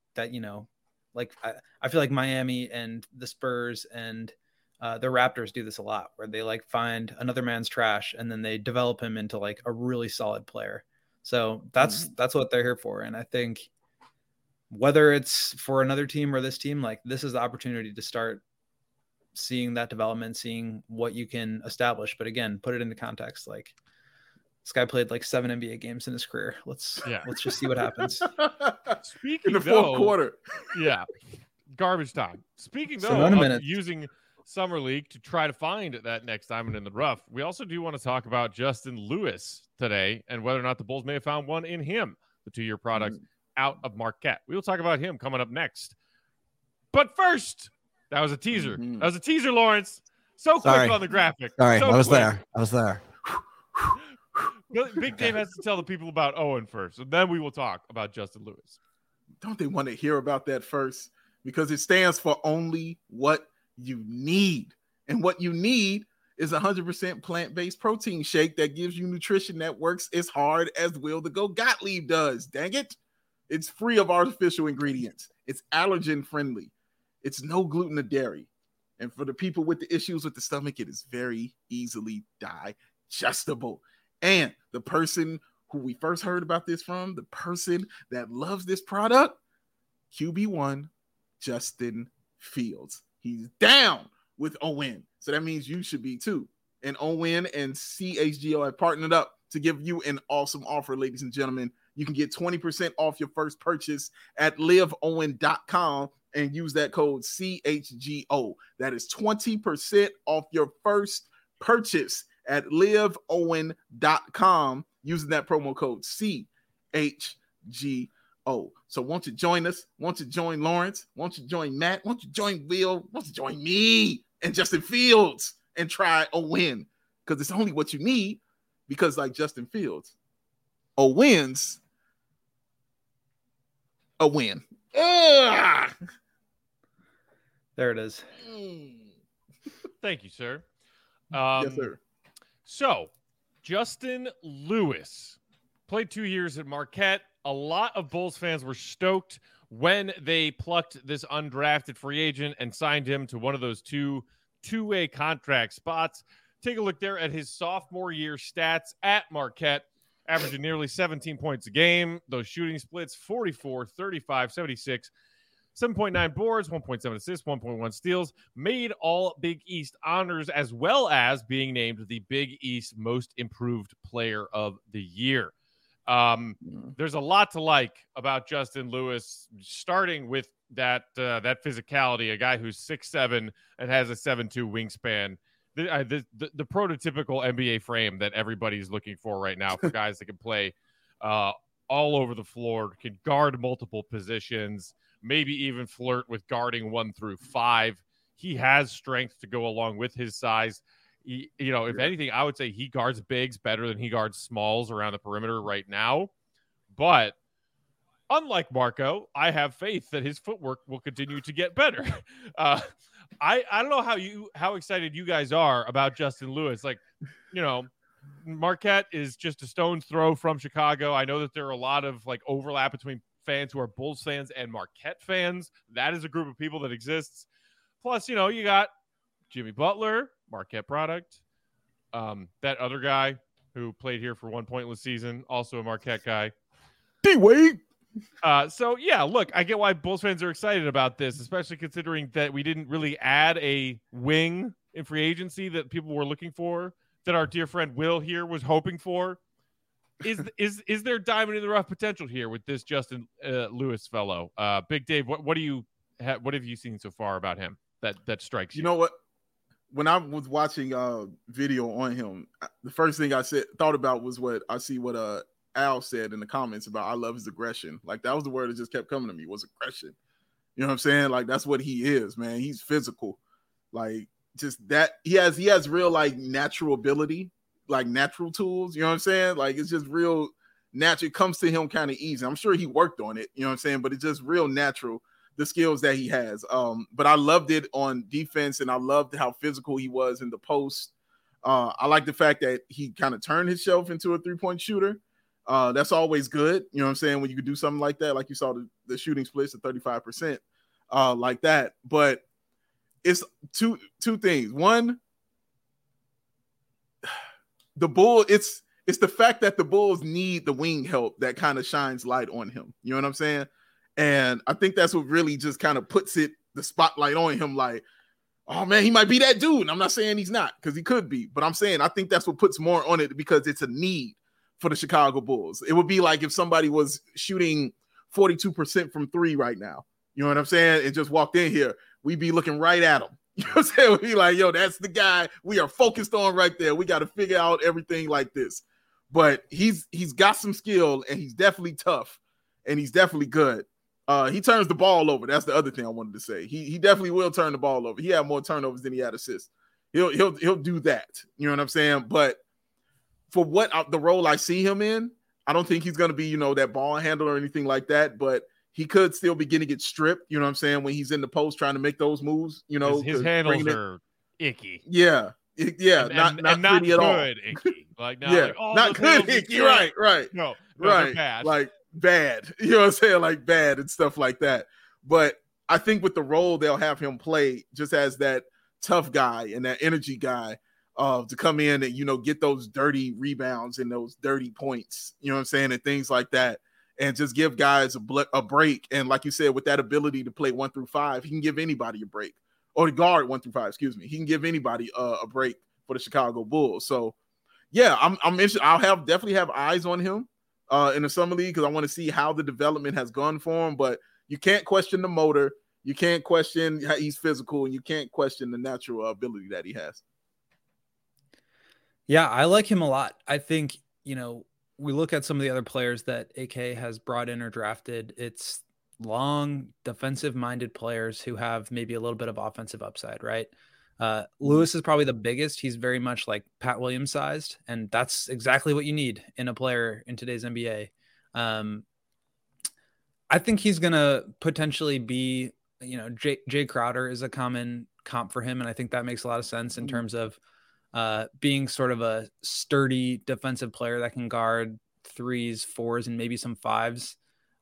I feel like Miami and the Spurs and the Raptors do this a lot, where they find another man's trash and then they develop him into a really solid player. So that's what they're here for. And I think whether it's for another team or this team, this is the opportunity to start seeing that development, seeing what you can establish. But again, put it into context. This guy played 7 NBA games in his career. Let's just see what happens. Speaking in the fourth quarter. Yeah. Garbage time. Speaking of using Summer League to try to find that next diamond in the rough, we also do want to talk about Justin Lewis today and whether or not the Bulls may have found one in him, the 2-year product out of Marquette. We will talk about him coming up next. But first, that was a teaser. That was a teaser, Lawrence. Quick on the graphic. Sorry, I was there. Big Dave has to tell the people about Owen first, and then we will talk about Justin Lewis. Don't they want to hear about that first? Because it stands for only what you need. And what you need is 100% plant-based protein shake that gives you nutrition that works as hard as Will the Go Gottlieb does. Dang it. It's free of artificial ingredients. It's allergen friendly. It's no gluten or dairy. And for the people with the issues with the stomach, it is very easily digestible. And the person who we first heard about this from, the person that loves this product, QB1, Justin Fields. He's down with OWYN. So that means you should be too. And OWYN and CHGO have partnered up to give you an awesome offer, ladies and gentlemen. You can get 20% off your first purchase at liveowyn.com and use that code CHGO. That is 20% off your first purchase at liveowyn.com using that promo code CHGO. So won't you join us? Won't you join Lawrence? Won't you join Matt? Won't you join Will? Won't you join me and Justin Fields and try OWYN? Because it's only what you need. Because like Justin Fields, OWYN's a win. There it is. Thank you, sir. Yes, sir. So, Justin Lewis played 2 years at Marquette. A lot of Bulls fans were stoked when they plucked this undrafted free agent and signed him to one of those two-way contract spots. Take a look there at his sophomore year stats at Marquette, averaging nearly 17 points a game. Those shooting splits, 44, 35, 76, 7.9 boards, 1.7 assists, 1.1 steals, made all Big East honors, as well as being named the Big East Most Improved Player of the Year. There's a lot to like about Justin Lewis, starting with that physicality, a guy who's 6'7" and has a 7'2" wingspan. The prototypical NBA frame that everybody's looking for right now for guys that can play all over the floor, can guard multiple positions, maybe even flirt with guarding 1 through 5. He has strength to go along with his size. If anything, I would say he guards bigs better than he guards smalls around the perimeter right now. But unlike Marco, I have faith that his footwork will continue to get better. I don't know how excited you guys are about Justin Lewis. Marquette is just a stone's throw from Chicago. I know that there are a lot of overlap between fans who are Bulls fans and Marquette fans. That is a group of people that exists. Plus, you got Jimmy Butler, Marquette product. That other guy who played here for one pointless season, also a Marquette guy. D-Wade. Look, I get why Bulls fans are excited about this, especially considering that we didn't really add a wing in free agency that people were looking for, that our dear friend Will here was hoping for? Is there diamond in the rough potential here with this Justin Lewis fellow? Big Dave, what have you seen so far about him that strikes you? You know what? When I was watching video on him, the first thing I thought about was what Al said in the comments about I love his aggression. Like, that was the word that just kept coming to me, was aggression. You know what I'm saying? Like, that's what he is, man. He's physical. Like, just that he has real, like, natural ability, like natural tools. You know what I'm saying? Like, it's just real natural. It comes to him kind of easy. I'm sure he worked on it, you know what I'm saying? But it's just real natural, the skills that he has. But I loved it on defense, and I loved how physical he was in the post. I like the fact that he kind of turned himself into a 3-point shooter. That's always good. You know what I'm saying? When you could do something like that, like you saw the shooting splits at 35%, like that. But it's two things. One, the Bulls, it's the fact that the Bulls need the wing help that kind of shines light on him. You know what I'm saying? And I think that's what really just kind of puts the spotlight on him, like, oh man, he might be that dude. And I'm not saying he's not, because he could be, but I'm saying I think that's what puts more on it, because it's a need for the Chicago Bulls. It would be like if somebody was shooting 42% from 3 right now. You know what I'm saying? And just walked in here, we'd be looking right at him. You know what I'm saying? We'd be like, yo, that's the guy we are focused on right there. We got to figure out everything like this. But he's got some skill, and he's definitely tough, and he's definitely good. He turns the ball over. That's the other thing I wanted to say. He definitely will turn the ball over. He had more turnovers than he had assists. He'll do that. You know what I'm saying? But for the role I see him in, I don't think he's going to be, that ball handler or anything like that. But he could still be getting it stripped. You know what I'm saying? When he's in the post trying to make those moves. His handles are icky. Yeah. Yeah. And not not good at all. Icky. Like, not yeah. like, oh, not good icky. Right. No, right. Bad. Like bad. You know what I'm saying? Like bad and stuff like that. But I think with the role they'll have him play just as that tough guy and that energy guy to come in and, get those dirty rebounds and those dirty points, you know what I'm saying? And things like that. And just give guys a break. And like you said, with that ability to play 1 through 5, he can give anybody a break, or to guard 1 through 5, excuse me. He can give anybody a break for the Chicago Bulls. So yeah, I'm interested. Definitely have eyes on him in the summer league, because I want to see how the development has gone for him. But you can't question the motor. You can't question how he's physical, and you can't question the natural ability that he has. Yeah, I like him a lot. I think, we look at some of the other players that AK has brought in or drafted. It's long defensive-minded players who have maybe a little bit of offensive upside, right? Lewis is probably the biggest. He's very much like Pat Williams sized, and that's exactly what you need in a player in today's NBA. I think he's going to potentially be, Jay Crowder is a common comp for him, and I think that makes a lot of sense in terms of being sort of a sturdy defensive player that can guard 3s, 4s, and maybe some 5s,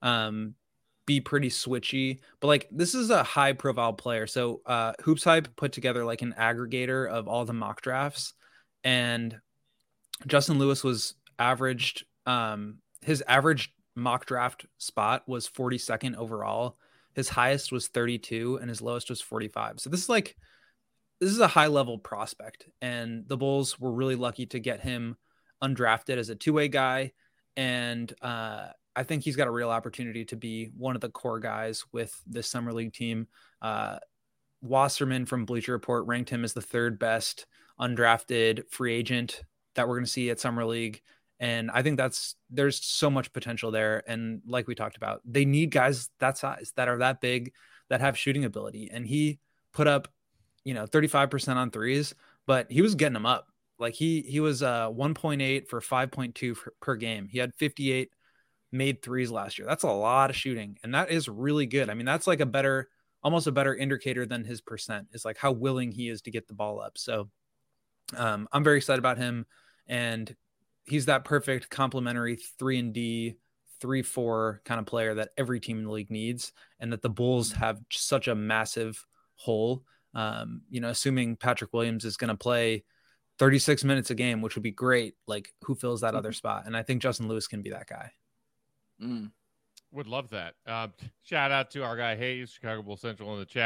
be pretty switchy. But like, this is a high profile player. So Hoops Hype put together like an aggregator of all the mock drafts, and Justin Lewis was averaged, his average mock draft spot was 42nd overall. His highest was 32 and his lowest was 45. So this is a high level prospect, and the Bulls were really lucky to get him undrafted as a 2-way guy. And I think he's got a real opportunity to be one of the core guys with this summer league team. Wasserman from Bleacher Report ranked him as the 3rd best undrafted free agent that we're going to see at summer league. And I think there's so much potential there. And like we talked about, they need guys that size, that are that big, that have shooting ability. And he put up, 35% on 3s, but he was getting them up. Like he was 1.8 for 5.2 per game. He had 58 made 3s last year. That's a lot of shooting. And that is really good. I mean, that's like almost a better indicator than his percent, is like how willing he is to get the ball up. So I'm very excited about him. And he's that perfect complementary 3-and-D, 3-4 kind of player that every team in the league needs, and that the Bulls have such a massive hole. Assuming Patrick Williams is going to play 36 minutes a game, which would be great. Like, who fills that other spot? And I think Justin Lewis can be that guy. Would love that. Shout out to our guy Hayes, Chicago Bulls Central, in the chat.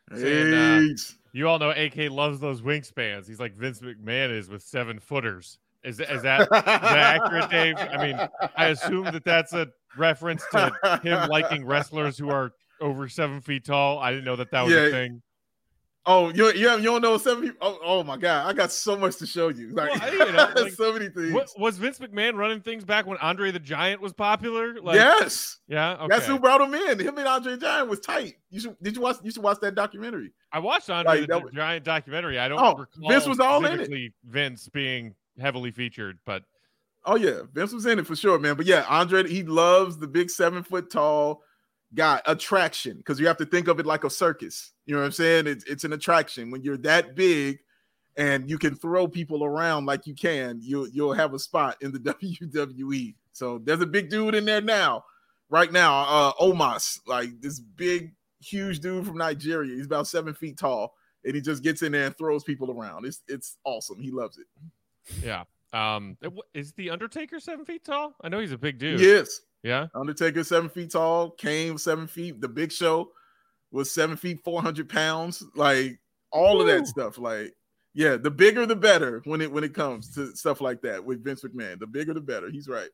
saying, you all know AK loves those wingspans. He's like Vince McMahon is with 7-footers. Is that accurate, Dave? I mean, I assume that's a reference to him liking wrestlers who are over 7 feet tall. I didn't know that was a thing. Oh, you don't know 7 feet? Oh my God, I got so much to show you. Like, so many things. Was Vince McMahon running things back when Andre the Giant was popular? Like, yes. Yeah. Okay. That's who brought him in. Him and Andre the Giant was tight. You should watch that documentary. I watched Andre the Giant documentary. I don't recall Vince was all in it. Vince being heavily featured, but yeah, Vince was in it for sure, man. But yeah, Andre, he loves the big 7 foot tall guy. Attraction, because you have to think of it like a circus. You know what I'm saying? It's an attraction when you're that big and you can throw people around like you can. You'll have a spot in the WWE. So there's a big dude in there right now. Omos, like this big, huge dude from Nigeria. He's about 7 feet tall, and he just gets in there and throws people around. It's awesome. He loves it. Yeah. Is the Undertaker 7 feet tall? I know he's a big dude. Yes. Yeah. Undertaker 7 feet tall. Kane 7 feet. The Big Show was 7 feet 400 pounds. Like all of that stuff. Like, yeah, the bigger the better when it comes to stuff like that with Vince McMahon. The bigger the better. He's right.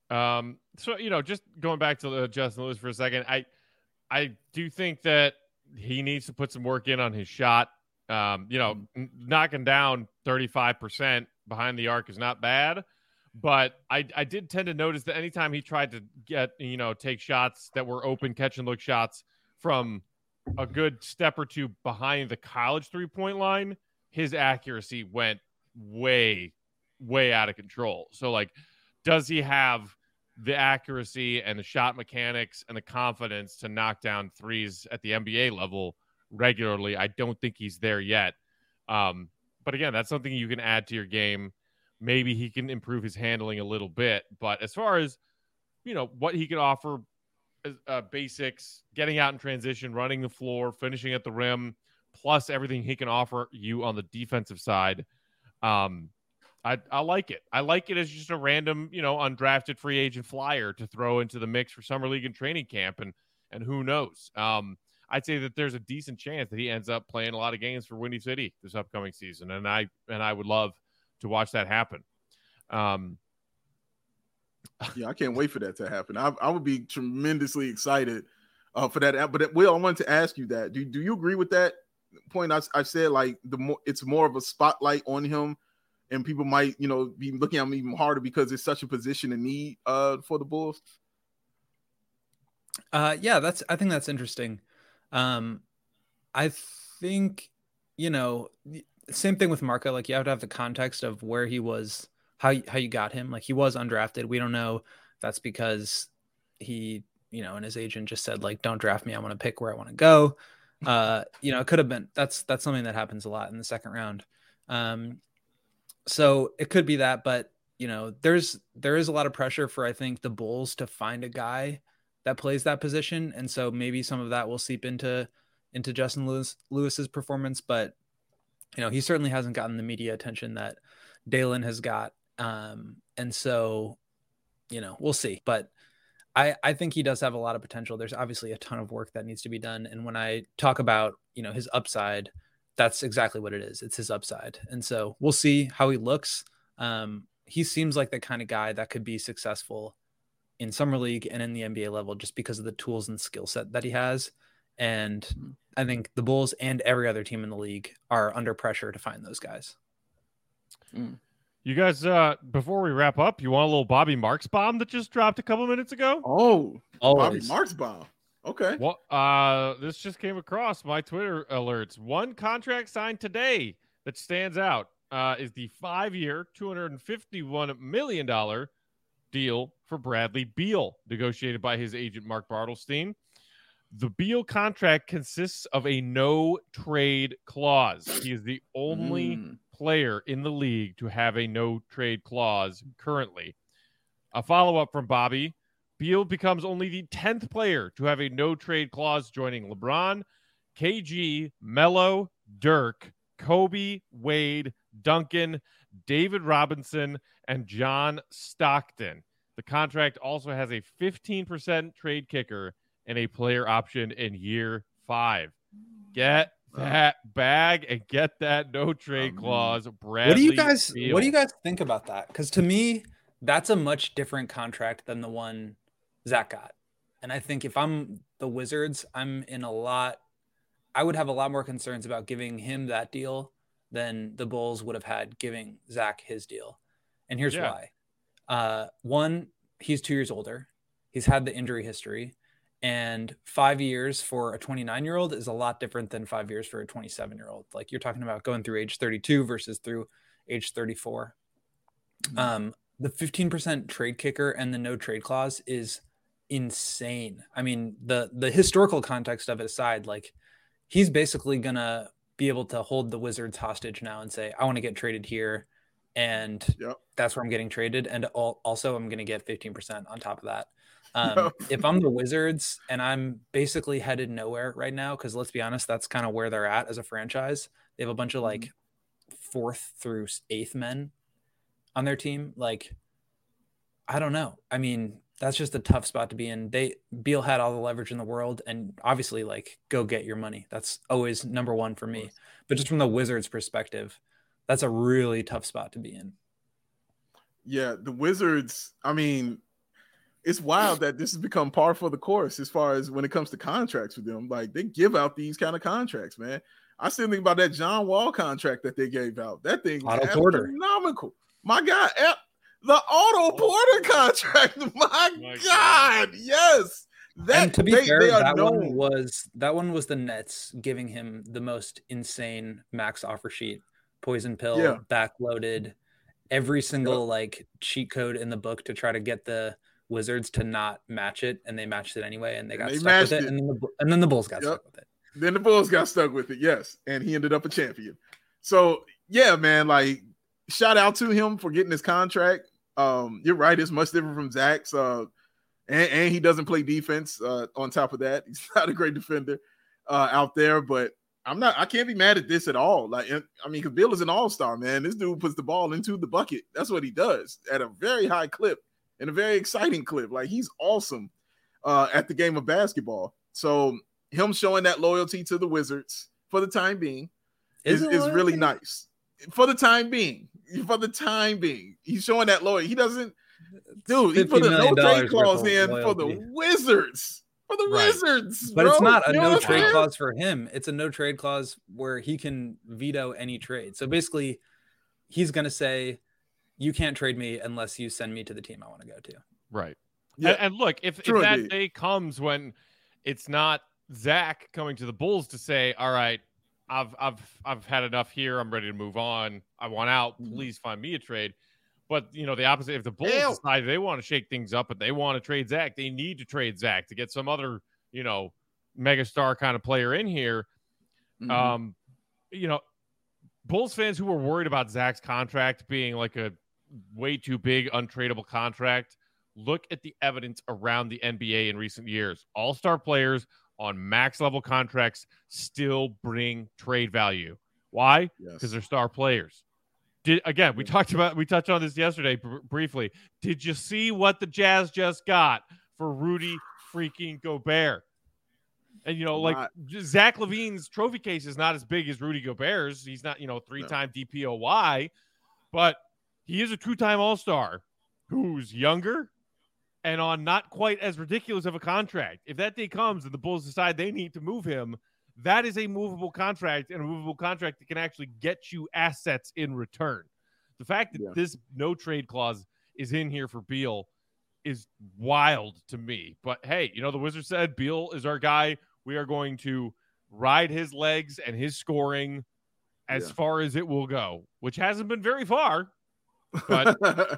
So just going back to Justin Lewis for a second, I do think that he needs to put some work in on his shot. Knocking down 35% behind the arc is not bad, but I did tend to notice that anytime he tried to get, take shots that were open catch and look shots from a good step or two behind the college 3-point line, his accuracy went way, way out of control. So like, does he have the accuracy and the shot mechanics and the confidence to knock down threes at the NBA level regularly? I don't think he's there yet. But again, that's something you can add to your game. Maybe he can improve his handling a little bit. But as far as, what he can offer, basics, getting out in transition, running the floor, finishing at the rim, plus everything he can offer you on the defensive side, I like it. I like it as just a random, undrafted free agent flyer to throw into the mix for summer league and training camp. And who knows? I'd say that there's a decent chance that he ends up playing a lot of games for Windy City this upcoming season. And I would love to watch that happen. Yeah, I can't wait for that to happen. I would be tremendously excited for that. But Will, I wanted to ask you that. Do you agree with that point? I said, like, it's more of a spotlight on him, and people might, be looking at him even harder because it's such a position in need for the Bulls. Yeah, I think that's interesting. I think, same thing with Marco. Like, you have to have the context of where he was, how you got him. Like, he was undrafted. We don't know if that's because he, and his agent just said, like, don't draft me. I want to pick where I want to go. It could have been, that's something that happens a lot in the second round. So it could be that, but there is a lot of pressure for, I think, the Bulls to find a guy that plays that position. And so maybe some of that will seep into Justin Lewis's performance, but he certainly hasn't gotten the media attention that Dalen has got. And so, we'll see, but I think he does have a lot of potential. There's obviously a ton of work that needs to be done. And when I talk about, his upside, that's exactly what it is. It's his upside. And so we'll see how he looks. He seems like the kind of guy that could be successful in summer league and in the NBA level, just because of the tools and skill set that he has. And I think the Bulls and every other team in the league are under pressure to find those guys. You guys, before we wrap up, you want a little Bobby Marks bomb that just dropped a couple minutes ago? Oh, Bobby Marks bomb. Okay. Well, this just came across my Twitter alerts. One contract signed today that stands out is the 5-year, $251 million deal for Bradley Beal, negotiated by his agent Mark Bartelstein. The Beal contract consists of a no-trade clause. He is the only player in the league to have a no-trade clause currently. A follow-up from Bobby. Beal becomes only the 10th player to have a no-trade clause, joining LeBron, KG, Melo, Dirk, Kobe, Wade, Duncan, David Robinson, and John Stockton. The contract also has a 15% trade kicker and a player option in year 5. Get that bag and get that no trade clause. Bradley what do you guys Beal. think about that? Because to me, that's a much different contract than the one Zach got. And I think if I'm the Wizards, I would have a lot more concerns about giving him that deal than the Bulls would have had giving Zach his deal. And here's why. One, he's 2 years older. He's had the injury history. And 5 years for a 29-year-old is a lot different than 5 years for a 27-year-old. Like, you're talking about going through age 32 versus through age 34. The 15% trade kicker and the no trade clause is insane. I mean, the historical context of it aside, like, he's basically going to be able to hold the Wizards hostage now and say, I want to get traded here. And that's where I'm getting traded. And also I'm going to get 15% on top of that. If I'm the Wizards and I'm basically headed nowhere right now, because let's be honest, that's kind of where they're at as a franchise. They have a bunch of like 4th through 8th men on their team. Like, I don't know. I mean, that's just a tough spot to be in. Beal had all the leverage in the world, and obviously, like, go get your money. That's always number one for me. But just from the Wizards' perspective, that's a really tough spot to be in. Yeah, the Wizards, I mean, it's wild that this has become par for the course as far as when it comes to contracts with them. Like, they give out these kind of contracts, man. I still think about that John Wall contract that they gave out. That thing was astronomical. My God, the Otto Porter contract. My God, yes. And to be fair, that one was the Nets giving him the most insane max offer sheet, poison pill, backloaded, every single like cheat code in the book to try to get the Wizards to not match it, and they matched it anyway, and they got stuck with it. And then the Bulls got stuck with it. Then the Bulls got stuck with it, yes, and he ended up a champion. So yeah, man, like, shout out to him for getting his contract. You're right, it's much different from Zach's, and he doesn't play defense. On top of that, he's not a great defender out there, but I can't be mad at this at all. Like, I mean, because Bill is an all-star, man. This dude puts the ball into the bucket. That's what he does at a very high clip. And a very exciting clip. Like, he's awesome at the game of basketball. So him showing that loyalty to the Wizards for the time being is really nice. For the time being, he's showing that loyalty. He doesn't, dude. He put a no trade clause in for the Wizards. For the Wizards, but it's not a no trade clause for him. It's a no trade clause where he can veto any trade. So basically, he's going to say, you can't trade me unless you send me to the team I want to go to. Right. Yeah. And look, if that day comes when it's not Zach coming to the Bulls to say, all right, I've had enough here. I'm ready to move on. I want out. Please find me a trade. But, you know, the opposite, if the Bulls decide they want to shake things up and they want to trade Zach, they need to trade Zach to get some other, you know, megastar kind of player in here. You know, Bulls fans who were worried about Zach's contract being like a way too big, untradeable contract, look at the evidence around the NBA in recent years. All-star players on max level contracts still bring trade value. Why? Because they're star players. We touched on this yesterday briefly. Did you see what the Jazz just got for Rudy freaking Gobert? And, you know, like, Zach LaVine's trophy case is not as big as Rudy Gobert's. He's not, you know, 3-time DPOY, but he is a 2-time All-Star who's younger and on not quite as ridiculous of a contract. If that day comes and the Bulls decide they need to move him, that is a movable contract, and a movable contract that can actually get you assets in return. The fact that this no trade clause is in here for Beal is wild to me. But hey, you know, the Wizards said Beal is our guy. We are going to ride his legs and his scoring as far as it will go, which hasn't been very far, but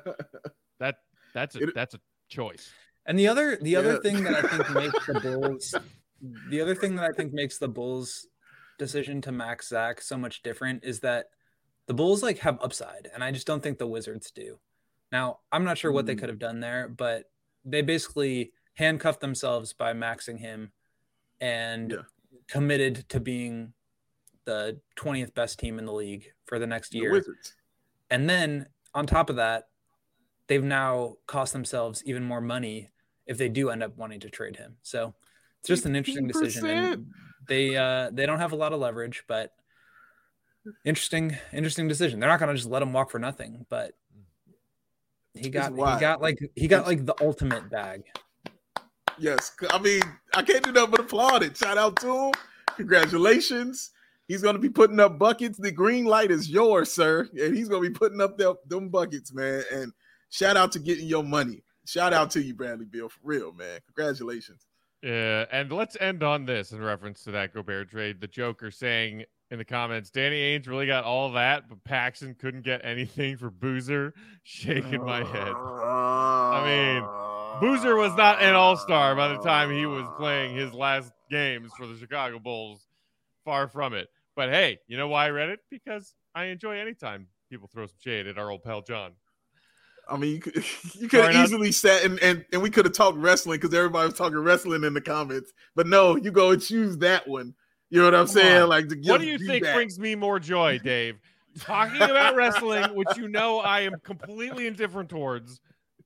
that's a choice. And the other thing that I think makes the Bulls, the other thing that I think makes the Bulls' decision to max Zach so much different is that the Bulls like have upside, and I just don't think the Wizards do. Now, I'm not sure what they could have done there, but they basically handcuffed themselves by maxing him and committed to being the 20th best team in the league for the next year. Wizards. And then on top of that, they've now cost themselves even more money if they do end up wanting to trade him. So it's just an interesting decision. And They don't have a lot of leverage, but interesting decision. They're not going to just let him walk for nothing, but he got like the ultimate bag. Yes, I mean, I can't do nothing but applaud it. Shout out to him. Congratulations. He's going to be putting up buckets. The green light is yours, sir. And he's going to be putting up them buckets, man. And shout out to getting your money. Shout out to you, Bradley Beal, for real, man. Congratulations. Yeah, and let's end on this in reference to that Gobert trade. The Joker saying in the comments, Danny Ainge really got all that, but Paxson couldn't get anything for Boozer. Shaking my head. I mean, Boozer was not an all-star by the time he was playing his last games for the Chicago Bulls. Far from it. But hey, you know why I read it? Because I enjoy any time people throw some shade at our old pal John. I mean, you could have easily sat and we could have talked wrestling because everybody was talking wrestling in the comments. But no, you go and choose that one. You know what I'm saying? Like, what do you think brings me more joy, Dave? Talking about wrestling, which you know I am completely indifferent towards,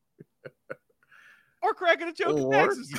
or cracking a joke in Texas?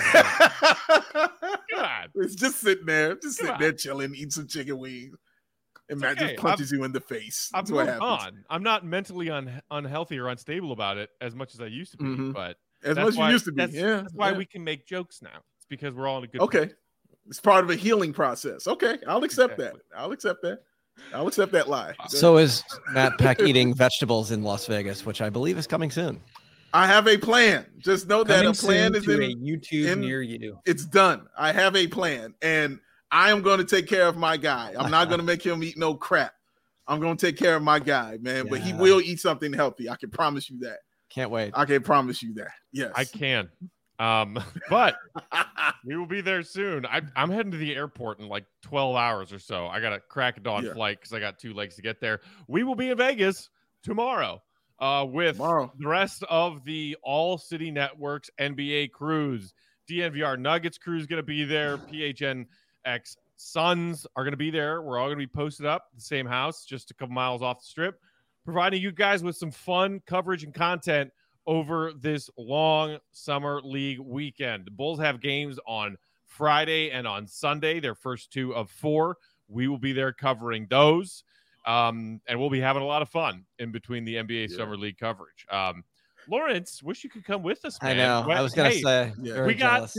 God, it's just sitting there, chilling, eating some chicken wings. And Matt just punches you in the face. That's what happens. I'm not mentally unhealthy or unstable about it as much as I used to be, but as much as you used to be. That's why we can make jokes now. It's because we're all in a good place. It's part of a healing process. Okay, I'll accept that. I'll accept that lie. So is Matt Peck eating vegetables in Las Vegas, which I believe is coming soon. I have a plan. Just know that a plan is in YouTube near you. It's done. I have a plan, and I am going to take care of my guy. I'm not going to make him eat no crap. I'm going to take care of my guy, man. Yeah. But he will eat something healthy. I can promise you that. Can't wait. I can promise you that. Yes, I can. But we will be there soon. I'm heading to the airport in like 12 hours or so. I got a crack of dawn flight because I got 2 legs to get there. We will be in Vegas tomorrow with the rest of the All City Networks NBA crews. DNVR Nuggets crew is going to be there. PHNX Suns are going to be there. We're all going to be posted up the same house, just a couple miles off the strip, providing you guys with some fun coverage and content over this long summer league weekend. The Bulls have games on Friday and on Sunday, their first 2 of 4. We will be there covering those. And we'll be having a lot of fun in between the NBA Summer League coverage. Lawrence, wish you could come with us, man. I know. I was going to say, we got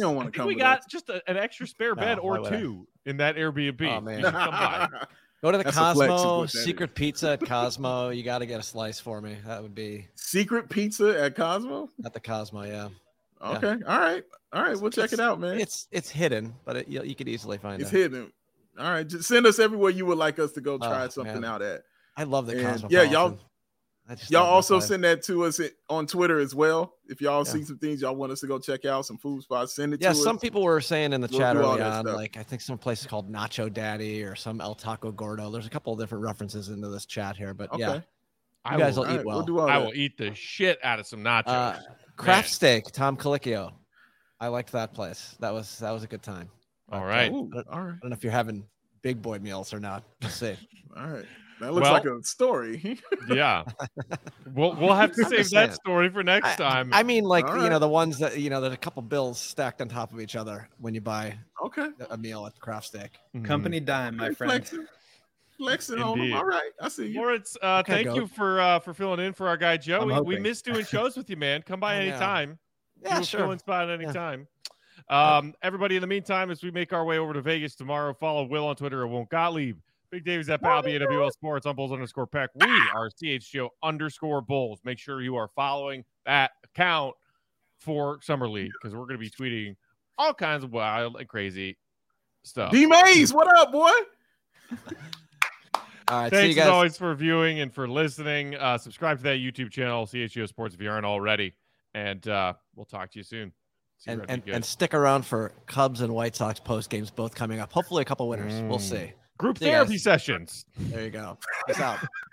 just an extra spare bed or 2 in that Airbnb. Oh, man. Come by. Go to the Cosmo, Secret Pizza at Cosmo. You got to get a slice for me. That would be Secret Pizza at Cosmo? At the Cosmo, yeah. Okay. Yeah. All right. We'll check it out, man. It's hidden, but you could easily find it. It's hidden. All right. Just send us everywhere you would like us to go try something out at. I love the Cosmo. Yeah, y'all also send that to us on Twitter as well. If y'all see some things y'all want us to go check out, some food spots, send it to us. Yeah, some people were saying in the chat early on, like I think some place is called Nacho Daddy or some El Taco Gordo. There's a couple of different references into this chat here, but you guys will eat well. I will eat the shit out of some nachos. Craft Steak, Tom Colicchio. I liked that place. That was a good time. All right. I don't know if you're having big boy meals or not. We'll see. All right. That looks like a story. Yeah. We'll have to save that story for next time. I mean, like, the ones that, there's a couple bills stacked on top of each other when you buy a meal at the Craft Steak. Mm-hmm. Company dime, my friend. Flexing on them. All right. I see you. Lawrence, thank you for filling in for our guy, Joe. We missed doing shows with you, man. Come by anytime. Yeah, sure. Filling spot at any time. Everybody, in the meantime, as we make our way over to Vegas tomorrow, follow Will on Twitter at Won't Gottlieb. Big Dave is at BAWL Sports on Bulls_Peck. We are CHGO_Bulls. Make sure you are following that account for Summer League because we're going to be tweeting all kinds of wild and crazy stuff. D Mays, what up, boy? All right, thanks as always for viewing and for listening. Subscribe to that YouTube channel, CHGO Sports, if you aren't already. And we'll talk to you soon. And stick around for Cubs and White Sox post games, both coming up. Hopefully a couple winners. We'll see. Group therapy sessions. There you go. Peace out.